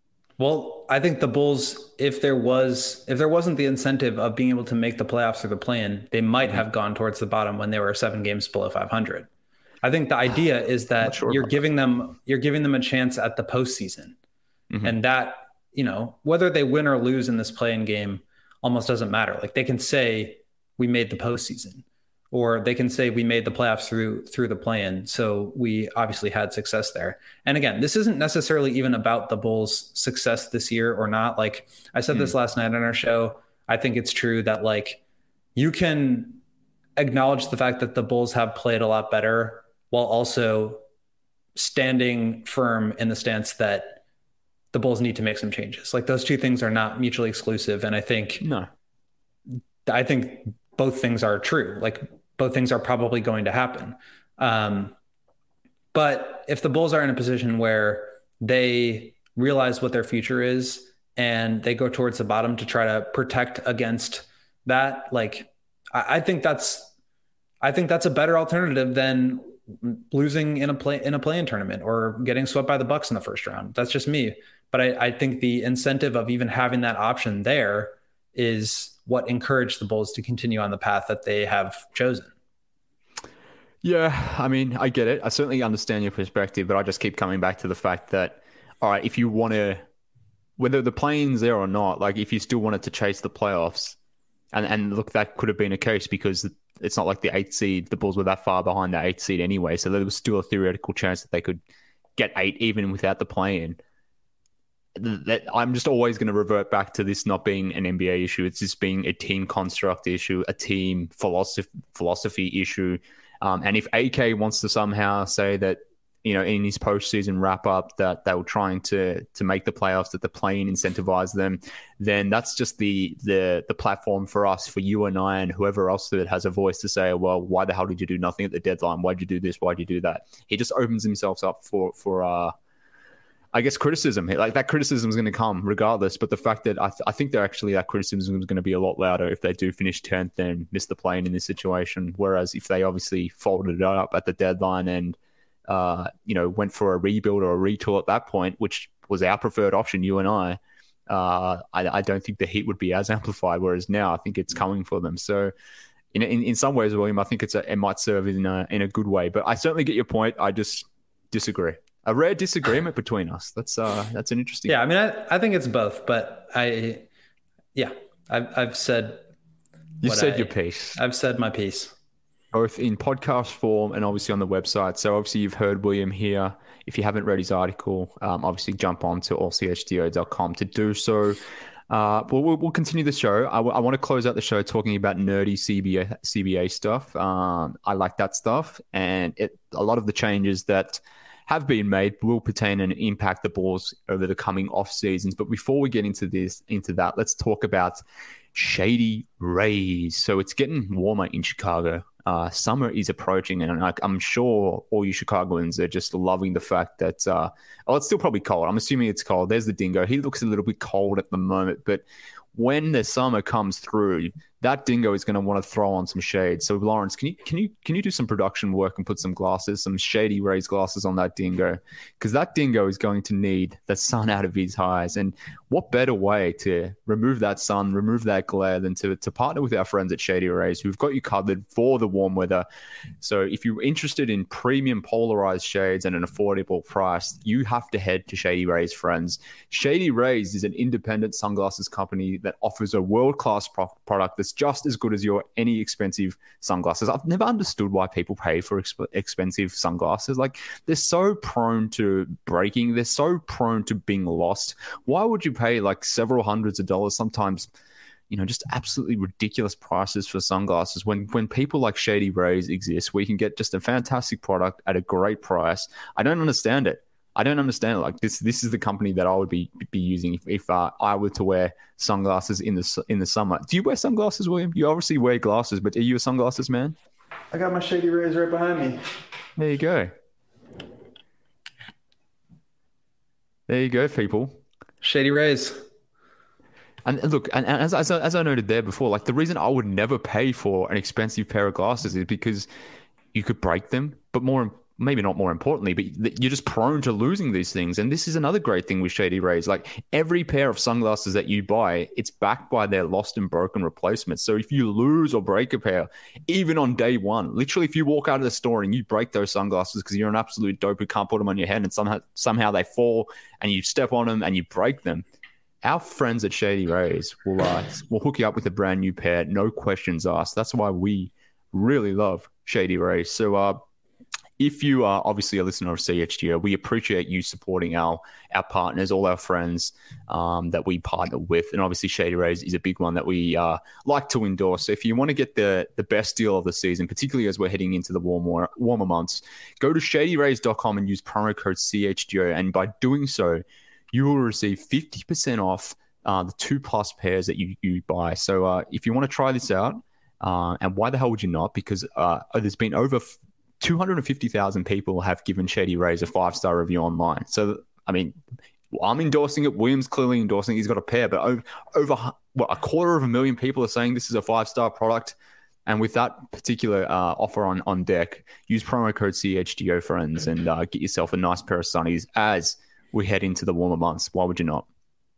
Well, I think the Bulls, if there was if there wasn't the incentive of being able to make the playoffs or the play-in, they might mm-hmm. have gone towards the bottom when they were seven games below five hundred. I think the idea is that sure you're giving that. them you're giving them a chance at the postseason, mm-hmm. and that, you know, whether they win or lose in this play-in game almost doesn't matter. Like, they can say we made the postseason, or they can say we made the playoffs through through the play-in. So we obviously had success there. And again, this isn't necessarily even about the Bulls' success this year or not. Like I said mm. this last night on our show, I think it's true that like you can acknowledge the fact that the Bulls have played a lot better while also standing firm in the stance that the Bulls need to make some changes. Like those two things are not mutually exclusive. And I think, no, I think both things are true. Like both things are probably going to happen. Um, but if the Bulls are in a position where they realize what their future is and they go towards the bottom to try to protect against that, like, I, I think that's, I think that's a better alternative than losing in a play in a play-in tournament or getting swept by the Bucks in the first round. That's just me. But I, I think the incentive of even having that option there is what encouraged the Bulls to continue on the path that they have chosen. Yeah, I mean, I get it. I certainly understand your perspective, but I just keep coming back to the fact that, all right, if you want to, whether the play-in's there or not, like if you still wanted to chase the playoffs, and, and look, that could have been a case because it's not like the eighth seed, the Bulls were that far behind the eighth seed anyway, so there was still a theoretical chance that they could get eight even without the play-in. That I'm just always going to revert back to this not being an N B A issue. It's just being a team construct issue, a team philosophy philosophy issue. Um, and if A K wants to somehow say that, you know, in his postseason wrap up that they were trying to to make the playoffs, that the play-in incentivized them, then that's just the the the platform for us, for you and I and whoever else that has a voice to say, well, why the hell did you do nothing at the deadline? Why'd you do this? Why'd you do that? He just opens himself up for for uh I guess criticism. Like that criticism is going to come regardless, but the fact that I, th- I think they're actually that criticism is going to be a lot louder if they do finish tenth and miss the play-in in this situation. Whereas if they obviously folded it up at the deadline and uh, you know went for a rebuild or a retool at that point, which was our preferred option, you and I, uh, I, I don't think the heat would be as amplified. Whereas now I think it's coming for them. So in in, in some ways, William, I think it's a, it might serve in a, in a good way. But I certainly get your point. I just disagree. A rare disagreement between us. That's uh, that's an interesting. Yeah, I mean, I, I think it's both, but I, yeah, I've I've said. You said I, your piece. I've said my piece. Both in podcast form and obviously on the website. So obviously you've heard William here. If you haven't read his article, um, obviously jump on to all c h d o dot com to do so. Uh, but we'll, we'll continue the show. I, w- I want to close out the show talking about nerdy C B A, C B A stuff. Um, I like that stuff, and it a lot of the changes that have been made will pertain and impact the Bulls over the coming off seasons. But before we get into this, into that, let's talk about Shady Rays. So it's getting warmer in Chicago. Uh, summer is approaching, and I, I'm sure all you Chicagoans are just loving the fact that, uh, oh, it's still probably cold. I'm assuming it's cold. There's the dingo. He looks a little bit cold at the moment, but when the summer comes through, that dingo is going to want to throw on some shade. So Lawrence, can you can you can you do some production work and put some glasses, some Shady Rays glasses on that dingo? Because that dingo is going to need the sun out of his eyes. And what better way to remove that sun, remove that glare than to to partner with our friends at Shady Rays, who've got you covered for the warm weather. So if you're interested in premium polarized shades at an affordable price, you have to head to Shady Rays, friends. Shady Rays is an independent sunglasses company that offers a world-class pro- product that's just as good as your any expensive sunglasses. I've never understood why people pay for exp- expensive sunglasses. Like, they're so prone to breaking. They're so prone to being lost. Why would you pay like several hundreds of dollars, sometimes, you know, just absolutely ridiculous prices for sunglasses when when people like Shady Rays exist? We can get just a fantastic product at a great price. I don't understand it. I don't understand it. Like this, this is the company that I would be be using if, if uh, I were to wear sunglasses in the in the summer. Do you wear sunglasses, William? You obviously wear glasses, but are you a sunglasses man? I got my Shady Rays right behind me. There you go. There you go, people. Shady Rays. And look, and as as I, as I noted there before, like the reason I would never pay for an expensive pair of glasses is because you could break them, but more. Maybe not more importantly, but you're just prone to losing these things. And this is another great thing with Shady Rays. Like, every pair of sunglasses that you buy, it's backed by their lost and broken replacements. So if you lose or break a pair, even on day one, literally if you walk out of the store and you break those sunglasses because you're an absolute dope who can't put them on your head and somehow somehow they fall and you step on them and you break them, our friends at Shady Rays will, uh, will hook you up with a brand new pair, no questions asked. That's why we really love Shady Rays. So, uh, if you are obviously a listener of C H G O, we appreciate you supporting our our partners, all our friends um, that we partner with. And obviously Shady Rays is a big one that we uh, like to endorse. So if you want to get the, the best deal of the season, particularly as we're heading into the warmer, warmer months, go to shady rays dot com and use promo code C H G O. And by doing so, you will receive fifty percent off uh, the two plus pairs that you, you buy. So uh, if you want to try this out, uh, and why the hell would you not? Because uh, there's been over two hundred fifty thousand people have given Shady Rays a five-star review online. So, I mean, I'm endorsing it. William's clearly endorsing it. He's got a pair, but over, over what, a quarter of a million people are saying this is a five-star product. And with that particular uh, offer on, on deck, use promo code C H G O, friends, and uh, get yourself a nice pair of sunnies as we head into the warmer months. Why would you not?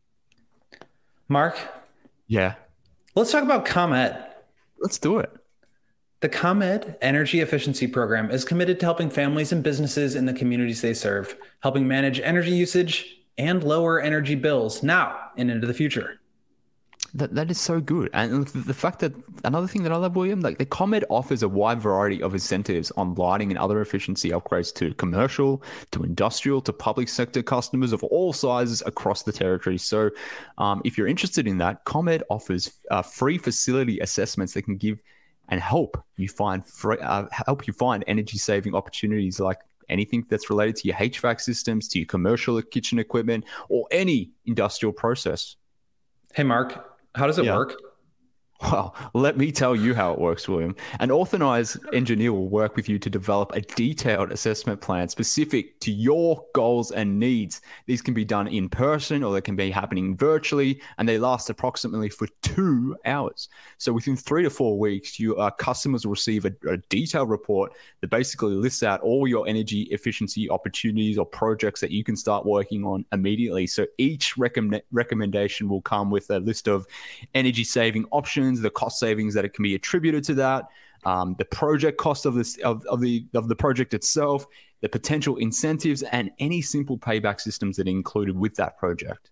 Mark? Yeah? Let's talk about ComEd. Let's do it. The ComEd Energy Efficiency Program is committed to helping families and businesses in the communities they serve, helping manage energy usage and lower energy bills now and into the future. That that is so good. And the fact that another thing that I love, William, like the ComEd offers a wide variety of incentives on lighting and other efficiency upgrades to commercial, to industrial, to public sector customers of all sizes across the territory. So um, if you're interested in that, ComEd offers uh, free facility assessments that can give and help you find free, uh, help you find energy saving opportunities, like anything that's related to your H V A C systems, to your commercial kitchen equipment, or any industrial process. Hey, Mark, how does it yeah. work? Well, let me tell you how it works, William. An authorized engineer will work with you to develop a detailed assessment plan specific to your goals and needs. These can be done in person or they can be happening virtually, and they last approximately for two hours. So within three to four weeks, your uh, customers will receive a, a detailed report that basically lists out all your energy efficiency opportunities or projects that you can start working on immediately. So each recommend- recommendation will come with a list of energy saving options, the cost savings that it can be attributed to that, um, the project cost of this of, of the of the project itself, the potential incentives, and any simple payback systems that are included with that project.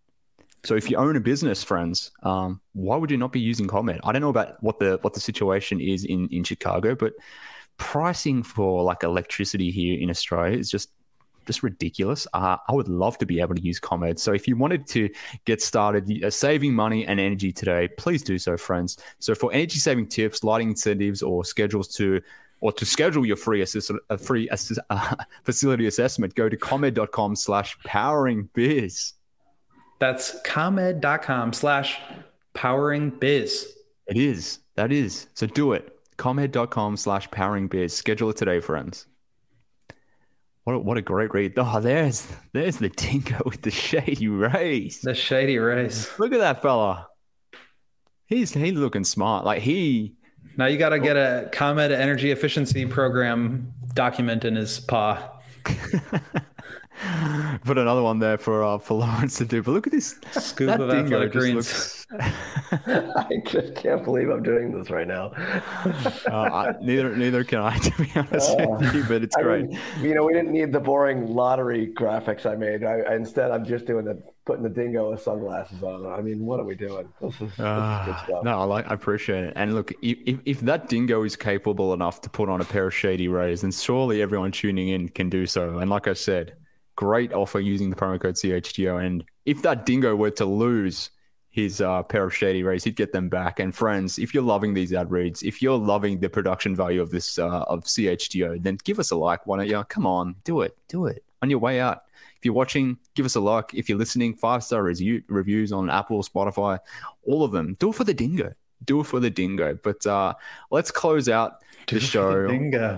So if you own a business, friends, um, why would you not be using ComEd? I don't know about what the what the situation is in, in Chicago, but pricing for like electricity here in Australia is just just ridiculous. Uh, I would love to be able to use ComEd. So if you wanted to get started uh, saving money and energy today, please do so, friends. So for energy saving tips, lighting incentives, or schedules to or to schedule your free assist, uh, free assist, uh, facility assessment, go to comed.com slash powering biz. That's comed.com slash powering biz. It is. That is. So do it. comed.com slash powering biz. Schedule it today, friends. What a, what a great read. Oh, there's there's the dingo with the Shady Rays. The Shady Rays. Look at that fella. He's he's looking smart. Like he. Now you got to get a ComEd Energy Efficiency Program document in his paw. Put another one there for uh, for Lawrence to do. But look at this. Scoop that of dingo athletic just greens. looks... I just can't believe I'm doing this right now. uh, I, neither neither can I, to be honest uh, with you, but it's I great. Mean, you know, we didn't need the boring lottery graphics I made. I, I, instead, I'm just doing the putting the dingo with sunglasses on. I mean, what are we doing? This is, this uh, is good stuff. No, I like, I appreciate it. And look, if if that dingo is capable enough to put on a pair of Shady Rays, then surely everyone tuning in can do so. And like I said, great offer using the promo code C H G O. And if that dingo were to lose his uh, pair of Shady Rays, he'd get them back. And friends, if you're loving these ad reads, if you're loving the production value of this uh, of C H G O, then give us a like. Why don't you? Come on, do it, do it on your way out. If you're watching, give us a like. If you're listening, five star review, reviews on Apple, Spotify, all of them. Do it for the dingo. Do it for the dingo. But uh, let's close out do the show. The dingo.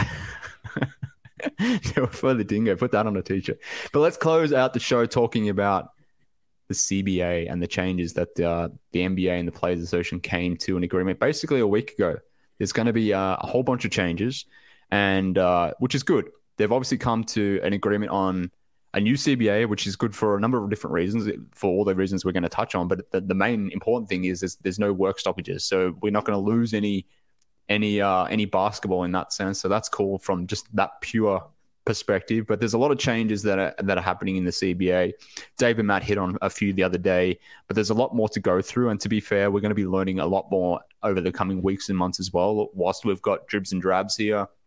Do it for the dingo. Put that on a t-shirt. But let's close out the show talking about the C B A and the changes that uh, the N B A and the Players Association came to an agreement basically a week ago. There's going to be uh, a whole bunch of changes, and uh, which is good. They've obviously come to an agreement on a new C B A, which is good for a number of different reasons, for all the reasons we're going to touch on. But the, the main important thing is there's, there's no work stoppages. So we're not going to lose any any uh, any basketball in that sense. So that's cool from just that pure perspective. But there's a lot of changes that are that are happening in the C B A. Dave and Matt hit on a few the other day, but there's a lot more to go through. And to be fair, we're going to be learning a lot more over the coming weeks and months as well. Whilst we've got dribs and drabs here,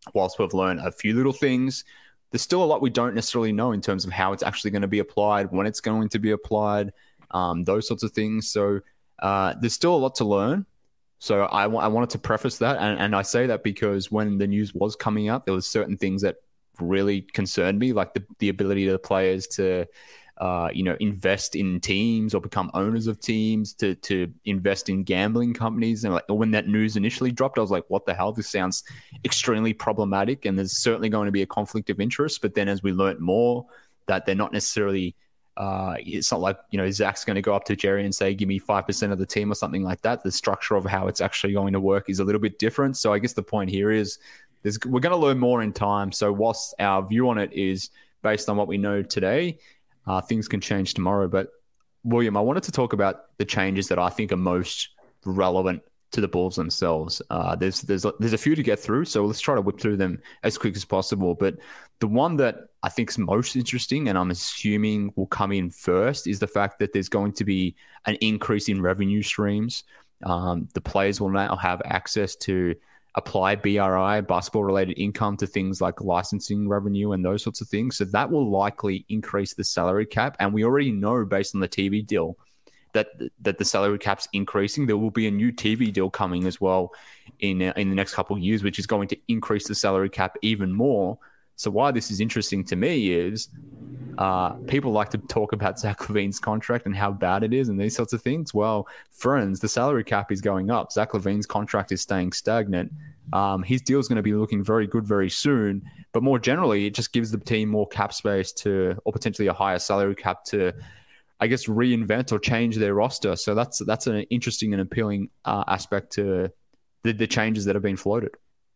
whilst we've learned a few little things, there's still a lot we don't necessarily know in terms of how it's actually going to be applied, when it's going to be applied, um, those sorts of things. So uh, there's still a lot to learn. So I, w- I wanted to preface that. And, and I say that because when the news was coming out, there was certain things that really concerned me, like the, the ability of the players to, uh, you know, invest in teams or become owners of teams, to to invest in gambling companies. And like when that news initially dropped, I was like, what the hell? This sounds extremely problematic. And there's certainly going to be a conflict of interest. But then as we learned more, that they're not necessarily, uh, it's not like, you know, Zach's going to go up to Jerry and say, give me five percent of the team or something like that. The structure of how it's actually going to work is a little bit different. So I guess the point here is there's, we're going to learn more in time. So whilst our view on it is based on what we know today, Uh, things can change tomorrow. But William, I wanted to talk about the changes that I think are most relevant to the Bulls themselves. Uh, there's there's there's a few to get through, so let's try to whip through them as quick as possible. But the one that I think is most interesting, and I'm assuming will come in first, is the fact that there's going to be an increase in revenue streams. Um, the players will now have access to apply B R I, basketball-related income, to things like licensing revenue and those sorts of things. So that will likely increase the salary cap. And we already know, based on the T V deal, that that the salary cap's increasing. There will be a new T V deal coming as well in in the next couple of years, which is going to increase the salary cap even more. So why this is interesting to me is uh, people like to talk about Zach LaVine's contract and how bad it is and these sorts of things. Well, friends, the salary cap is going up. Zach LaVine's contract is staying stagnant. Um, his deal is going to be looking very good very soon. But more generally, it just gives the team more cap space to, or potentially a higher salary cap to, I guess, reinvent or change their roster. So that's that's an interesting and appealing uh, aspect to the, the changes that have been floated.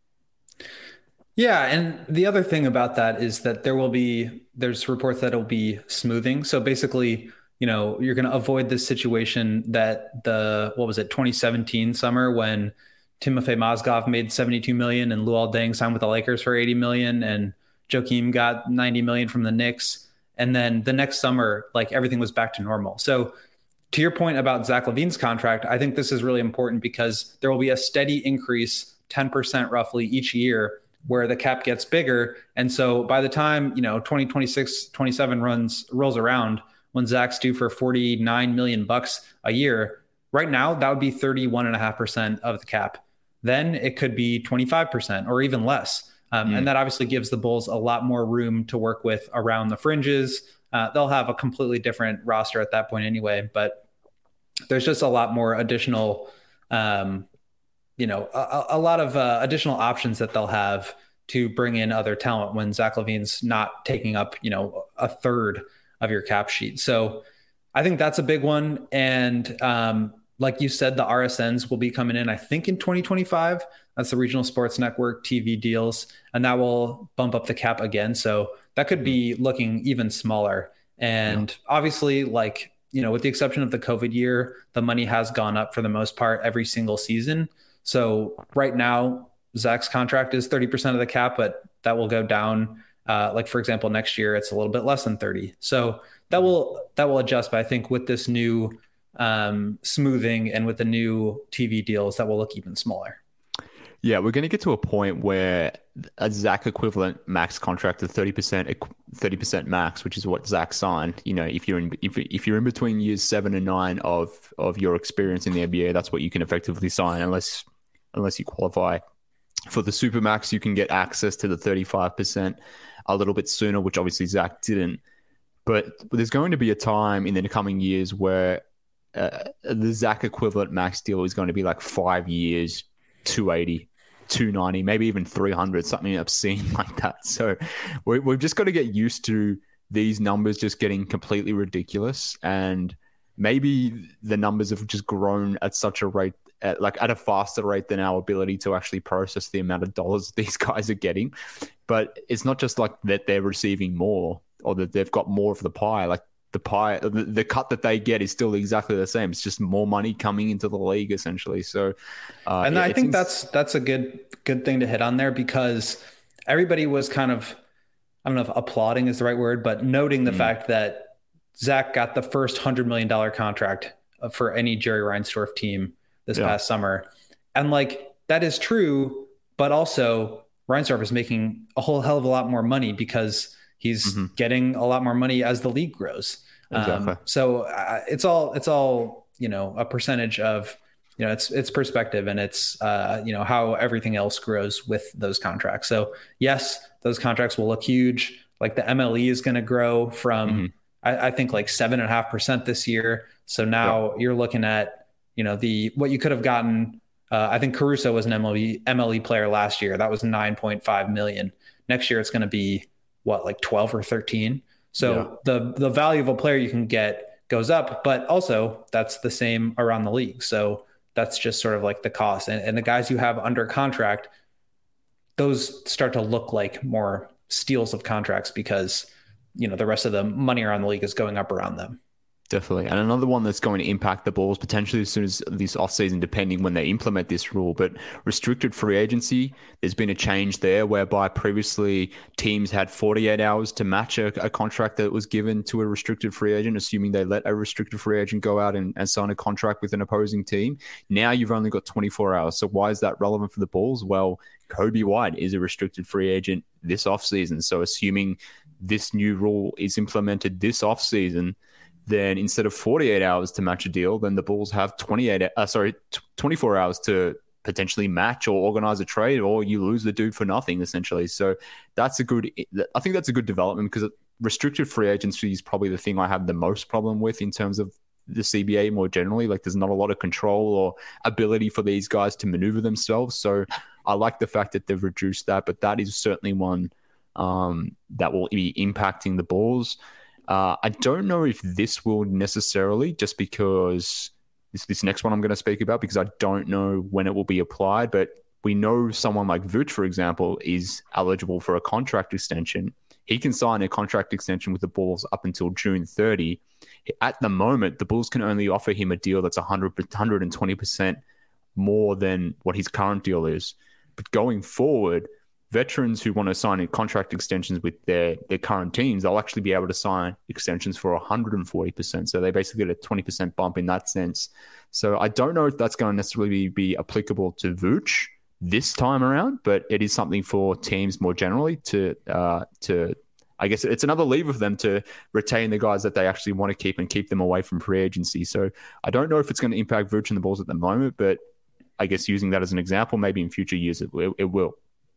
Yeah, and the other thing about that is that there will be, there's reports that it'll be smoothing. So basically, you know, you're going to avoid this situation that the, what was it, twenty seventeen summer when Timofey Mozgov made seventy-two million dollars and Luol Deng signed with the Lakers for eighty million dollars and Joakim got ninety million dollars from the Knicks. And then the next summer, like everything was back to normal. So to your point about Zach LaVine's contract, I think this is really important because there will be a steady increase, ten percent roughly each year, where the cap gets bigger. And so by the time, you know, twenty twenty-six, twenty-seven runs rolls around, when Zach's due for forty-nine million bucks a year, right now, that would be thirty-one and a half percent of the cap. Then it could be twenty-five percent or even less. Um, mm. And that obviously gives the Bulls a lot more room to work with around the fringes. Uh, they'll have a completely different roster at that point anyway, but there's just a lot more additional, um, you know, a, a lot of uh, additional options that they'll have to bring in other talent when Zach LaVine's not taking up, you know, a third of your cap sheet. So I think that's a big one. And um, like you said, the R S Ns will be coming in, I think, in twenty twenty-five. That's the Regional Sports Network T V deals, and that will bump up the cap again. So that could be looking even smaller. And yeah. obviously, like, you know, with the exception of the COVID year, the money has gone up for the most part every single season. So right now, Zach's contract is thirty percent of the cap, but that will go down. Uh, like, for example, next year, it's a little bit less than thirty. So that will that will adjust. But I think with this new um, smoothing and with the new T V deals, that will look even smaller. Yeah, we're going to get to a point where a Zach equivalent max contract of thirty percent, thirty percent max, which is what Zach signed. You know, if you're in if, if you're in between years seven and nine of of your experience in the N B A, that's what you can effectively sign, unless unless you qualify for the Supermax. You can get access to the thirty-five percent a little bit sooner, which obviously Zach didn't. But there's going to be a time in the coming years where uh, the Zach equivalent max deal is going to be like five years, two eighty. two ninety, maybe even three hundred, something obscene like that. So we, we've just got to get used to these numbers just getting completely ridiculous. And maybe the numbers have just grown at such a rate, at, like at a faster rate than our ability to actually process the amount of dollars these guys are getting. But it's not just like that they're receiving more or that they've got more of the pie. Like the pie, the, the cut that they get is still exactly the same. It's just more money coming into the league, essentially. So, uh, and it, I think seems... that's that's a good good thing to hit on there, because everybody was kind of, I don't know if applauding is the right word, but noting the mm. fact that Zach got the first hundred million dollar contract for any Jerry Reinsdorf team this yeah. past summer, and like that is true, but also Reinsdorf is making a whole hell of a lot more money because he's mm-hmm. getting a lot more money as the league grows. Exactly. Um, so uh, it's all, it's all, you know, a percentage of, you know, it's, it's perspective, and it's, uh, you know, how everything else grows with those contracts. So yes, those contracts will look huge. Like the M L E is going to grow from, mm-hmm. I, I think like seven and a half percent this year. So now yep. you're looking at, you know, the, what you could have gotten. Uh, I think Caruso was an M L E M L E player last year. That was nine point five million. Next year, it's going to be what, like twelve or thirteen. So yeah. the, the value of a player you can get goes up, but also that's the same around the league. So that's just sort of like the cost, and, and the guys you have under contract, those start to look like more steals of contracts because, you know, the rest of the money around the league is going up around them. Definitely. And another one that's going to impact the Bulls potentially as soon as this offseason, depending when they implement this rule, but restricted free agency, there's been a change there whereby previously teams had forty-eight hours to match a, a contract that was given to a restricted free agent, assuming they let a restricted free agent go out and, and sign a contract with an opposing team. Now you've only got twenty-four hours. So why is that relevant for the Bulls? Well, Coby White is a restricted free agent this offseason. So assuming this new rule is implemented this offseason, then instead of forty-eight hours to match a deal, then the Bulls have twenty-eight, uh, sorry, twenty-four hours to potentially match or organize a trade, or you lose the dude for nothing, essentially. So that's a good, I think that's a good development, because restricted free agency is probably the thing I have the most problem with in terms of the C B A more generally. Like, there's not a lot of control or ability for these guys to maneuver themselves. So I like the fact that they've reduced that, but that is certainly one um, that will be impacting the Bulls. Uh, I don't know if this will necessarily, just because this, this next one I'm going to speak about, because I don't know when it will be applied, but we know someone like Vooch, for example, is eligible for a contract extension. He can sign a contract extension with the Bulls up until June thirtieth. At the moment, the Bulls can only offer him a deal that's one hundred, one hundred twenty percent more than what his current deal is. But going forward, veterans who want to sign contract extensions with their, their current teams, they'll actually be able to sign extensions for one hundred forty percent. So they basically get a twenty percent bump in that sense. So I don't know if that's going to necessarily be, be applicable to Vooch this time around, but it is something for teams more generally to, uh, to I guess it's another lever for them to retain the guys that they actually want to keep and keep them away from free agency. So I don't know if it's going to impact Vooch and the Bulls at the moment, but I guess using that as an example, maybe in future years it, it, it will.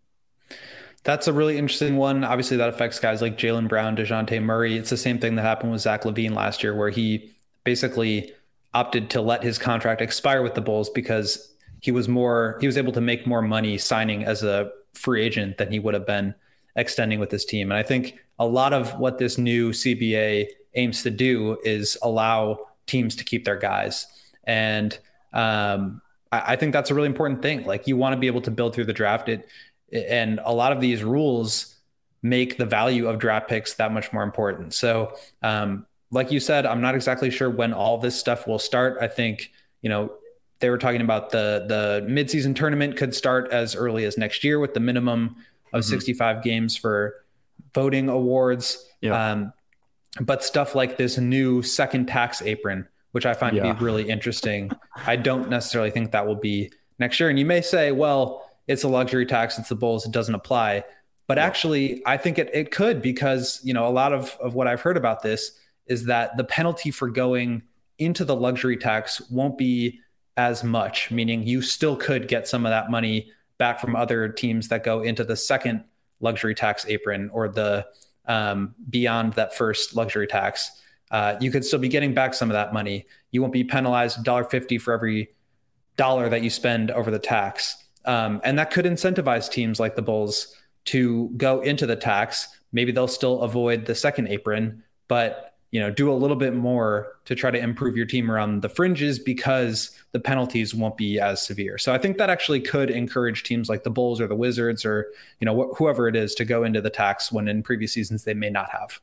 That's a really interesting one. Obviously, that affects guys like Jaylen Brown, DeJounte Murray. It's the same thing that happened with Zach LaVine last year, where he basically opted to let his contract expire with the Bulls because he was more he was able to make more money signing as a free agent than he would have been extending with his team. And I think a lot of what this new C B A aims to do is allow teams to keep their guys. And um, I, I think that's a really important thing. Like, you want to be able to build through the draft. It And a lot of these rules make the value of draft picks that much more important. So um, like you said, I'm not exactly sure when all this stuff will start. I think, you know, they were talking about the the midseason tournament could start as early as next year with the minimum of mm-hmm. sixty-five games for voting awards. Yeah. Um, but stuff like this new second tax apron, which I find yeah. to be really interesting, I don't necessarily think that will be next year. And you may say, well, it's a luxury tax, it's the Bulls, it doesn't apply. But yeah. actually, I think it, it could, because, you know, a lot of, of what I've heard about this is that the penalty for going into the luxury tax won't be as much, meaning you still could get some of that money back from other teams that go into the second luxury tax apron, or the um, beyond that first luxury tax. Uh, you could still be getting back some of that money. You won't be penalized one dollar fifty for every dollar that you spend over the tax. Um, and that could incentivize teams like the Bulls to go into the tax. Maybe they'll still avoid the second apron, but, you know, do a little bit more to try to improve your team around the fringes, because the penalties won't be as severe. So I think that actually could encourage teams like the Bulls or the Wizards, or, you know, wh- whoever it is, to go into the tax when in previous seasons they may not have.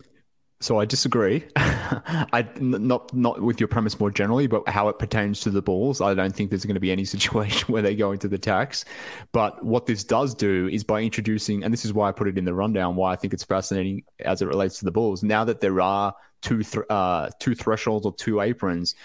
So I disagree. I not not with your premise more generally, but how it pertains to the Bulls. I don't think there's going to be any situation where they go into the tax. But what this does do is, by introducing, and this is why I put it in the rundown, why I think it's fascinating as it relates to the Bulls. Now that there are two th- uh, two thresholds or two aprons,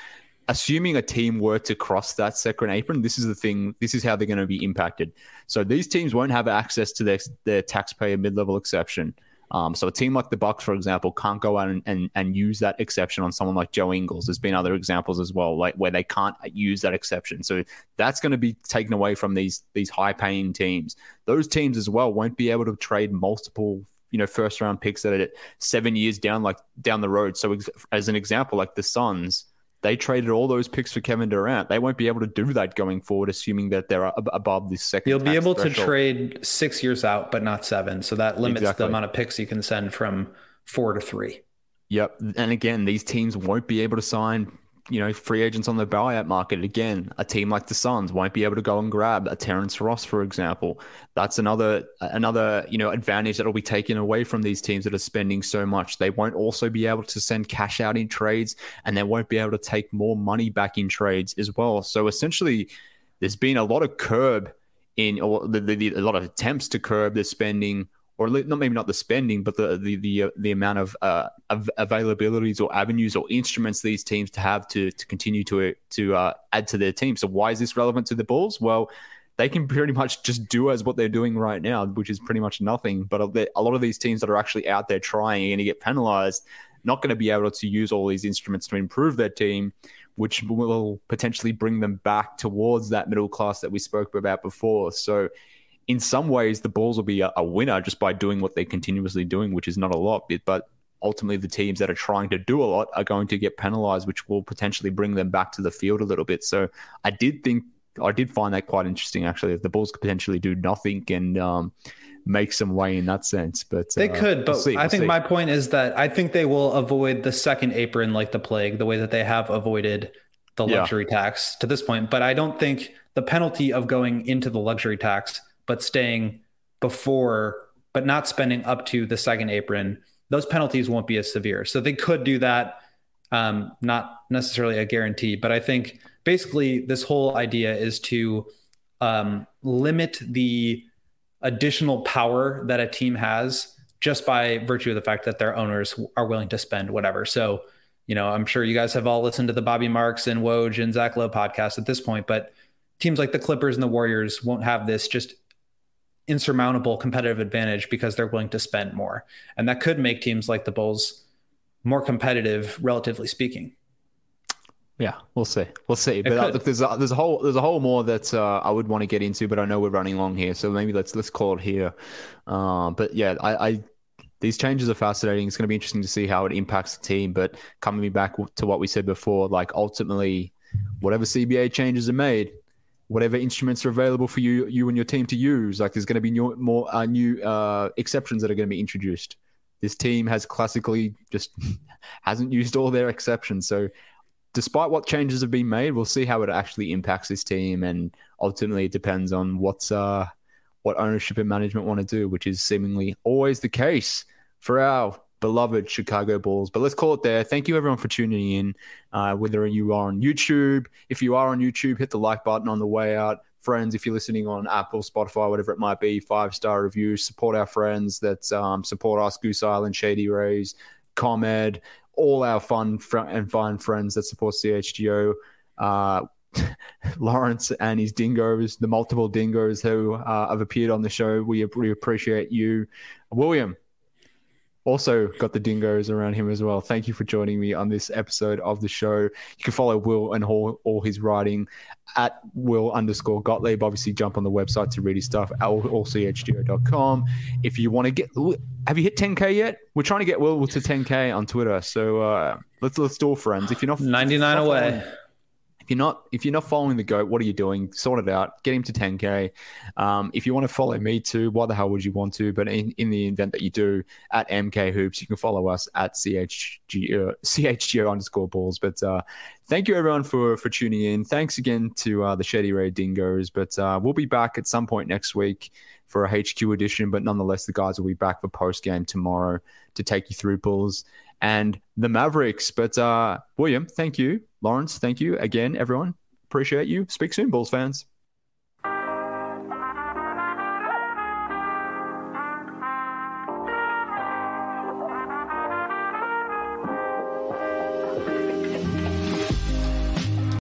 assuming a team were to cross that second apron, this is the thing. This is how they're going to be impacted. So these teams won't have access to their their taxpayer mid-level exception. Um, so a team like the Bucks, for example, can't go out and, and, and use that exception on someone like Joe Ingles. There's been other examples as well, like where they can't use that exception. So that's going to be taken away from these these high-paying teams. Those teams as well won't be able to trade multiple, you know, first-round picks that are seven years down, like down the road. So as an example, like the Suns, they traded all those picks for Kevin Durant. They won't be able to do that going forward, assuming that they're above this second. You'll be able threshold. to trade six years out, but not seven. So that limits exactly. the amount of picks you can send from four to three. Yep. And again, these teams won't be able to sign, you know, free agents on the buyout market. Again, a team like the Suns won't be able to go and grab a Terrence Ross, for example. That's another, another, you know, advantage that will be taken away from these teams that are spending so much. They won't also be able to send cash out in trades, and they won't be able to take more money back in trades as well. So essentially, there's been a lot of curb in, or the, the, the, a lot of attempts to curb the spending, or not maybe not the spending, but the the the, uh, the amount of, uh, of availabilities or avenues or instruments these teams to have to to continue to to uh, add to their team. So why is this relevant to the Bulls? Well, they can pretty much just do as what they're doing right now, which is pretty much nothing. But a lot of these teams that are actually out there trying and going to get penalized, not going to be able to use all these instruments to improve their team, which will potentially bring them back towards that middle class that we spoke about before. So in some ways, the Bulls will be a, a winner just by doing what they're continuously doing, which is not a lot. But ultimately, the teams that are trying to do a lot are going to get penalized, which will potentially bring them back to the field a little bit. So I did think, I did find that quite interesting, actually, if the Bulls could potentially do nothing and um, make some way in that sense. But they uh, could, but we'll see, I we'll think see. my point is that I think they will avoid the second apron like the plague, the way that they have avoided the luxury yeah. tax to this point. But I don't think the penalty of going into the luxury tax but staying before, but not spending up to the second apron, those penalties won't be as severe. So they could do that. Um, not necessarily a guarantee, but I think basically this whole idea is to um, limit the additional power that a team has just by virtue of the fact that their owners are willing to spend whatever. So, you know, I'm sure you guys have all listened to the Bobby Marks and Woj and Zach Lowe podcast at this point, but teams like the Clippers and the Warriors won't have this just insurmountable competitive advantage because they're willing to spend more. And that could make teams like the Bulls more competitive, relatively speaking. Yeah, we'll see. We'll see. But uh, look, there's a, there's a whole there's a whole more that uh, I would want to get into, but I know we're running long here, so maybe let's let's call it here. Uh, but yeah, I, I these changes are fascinating. It's going to be interesting to see how it impacts the team. But coming back to what we said before, like ultimately, whatever C B A changes are made, whatever instruments are available for you, you and your team to use, like there's going to be new, more uh, new uh, exceptions that are going to be introduced. This team has classically just hasn't used all their exceptions. So despite what changes have been made, we'll see how it actually impacts this team. And ultimately it depends on what's uh, what ownership and management want to do, which is seemingly always the case for our beloved Chicago Bulls. But let's call it there. Thank you everyone for tuning in. Uh, whether you are on YouTube, if you are on YouTube, hit the like button on the way out. Friends, if you're listening on Apple, Spotify, whatever it might be, five-star reviews, support our friends that um, support us, Goose Island, Shady Rays, ComEd, all our fun fr- and fine friends that support C H G O. Uh, Lawrence and his dingoes, the multiple dingoes who uh, have appeared on the show. We, we appreciate you. William also got the dingoes around him as well. Thank you for joining me on this episode of the show. You can follow Will and all, all his writing at Will underscore Gottlieb. Obviously, jump on the website to read his stuff at all c h g o dot com. If you want to get, have you hit ten K yet? We're trying to get Will to ten K on Twitter. So uh, let's let's do it, friends. If you're not ninety-nine not away. Following, If you're not if you're not following the GOAT, what are you doing? Sort it out. Get him to ten K. Um, if you want to follow me too, why the hell would you want to? But in, in the event that you do, at M K Hoops, you can follow us at C H G O, C H G O underscore balls. But uh, thank you everyone for for tuning in. Thanks again to uh, the Shady Ray Dingoes. But uh, we'll be back at some point next week for a H Q edition. But nonetheless, the guys will be back for post game tomorrow to take you through Bulls and the Mavericks. But uh, William, thank you. Lawrence, thank you again, everyone. Appreciate you. Speak soon, Bulls fans.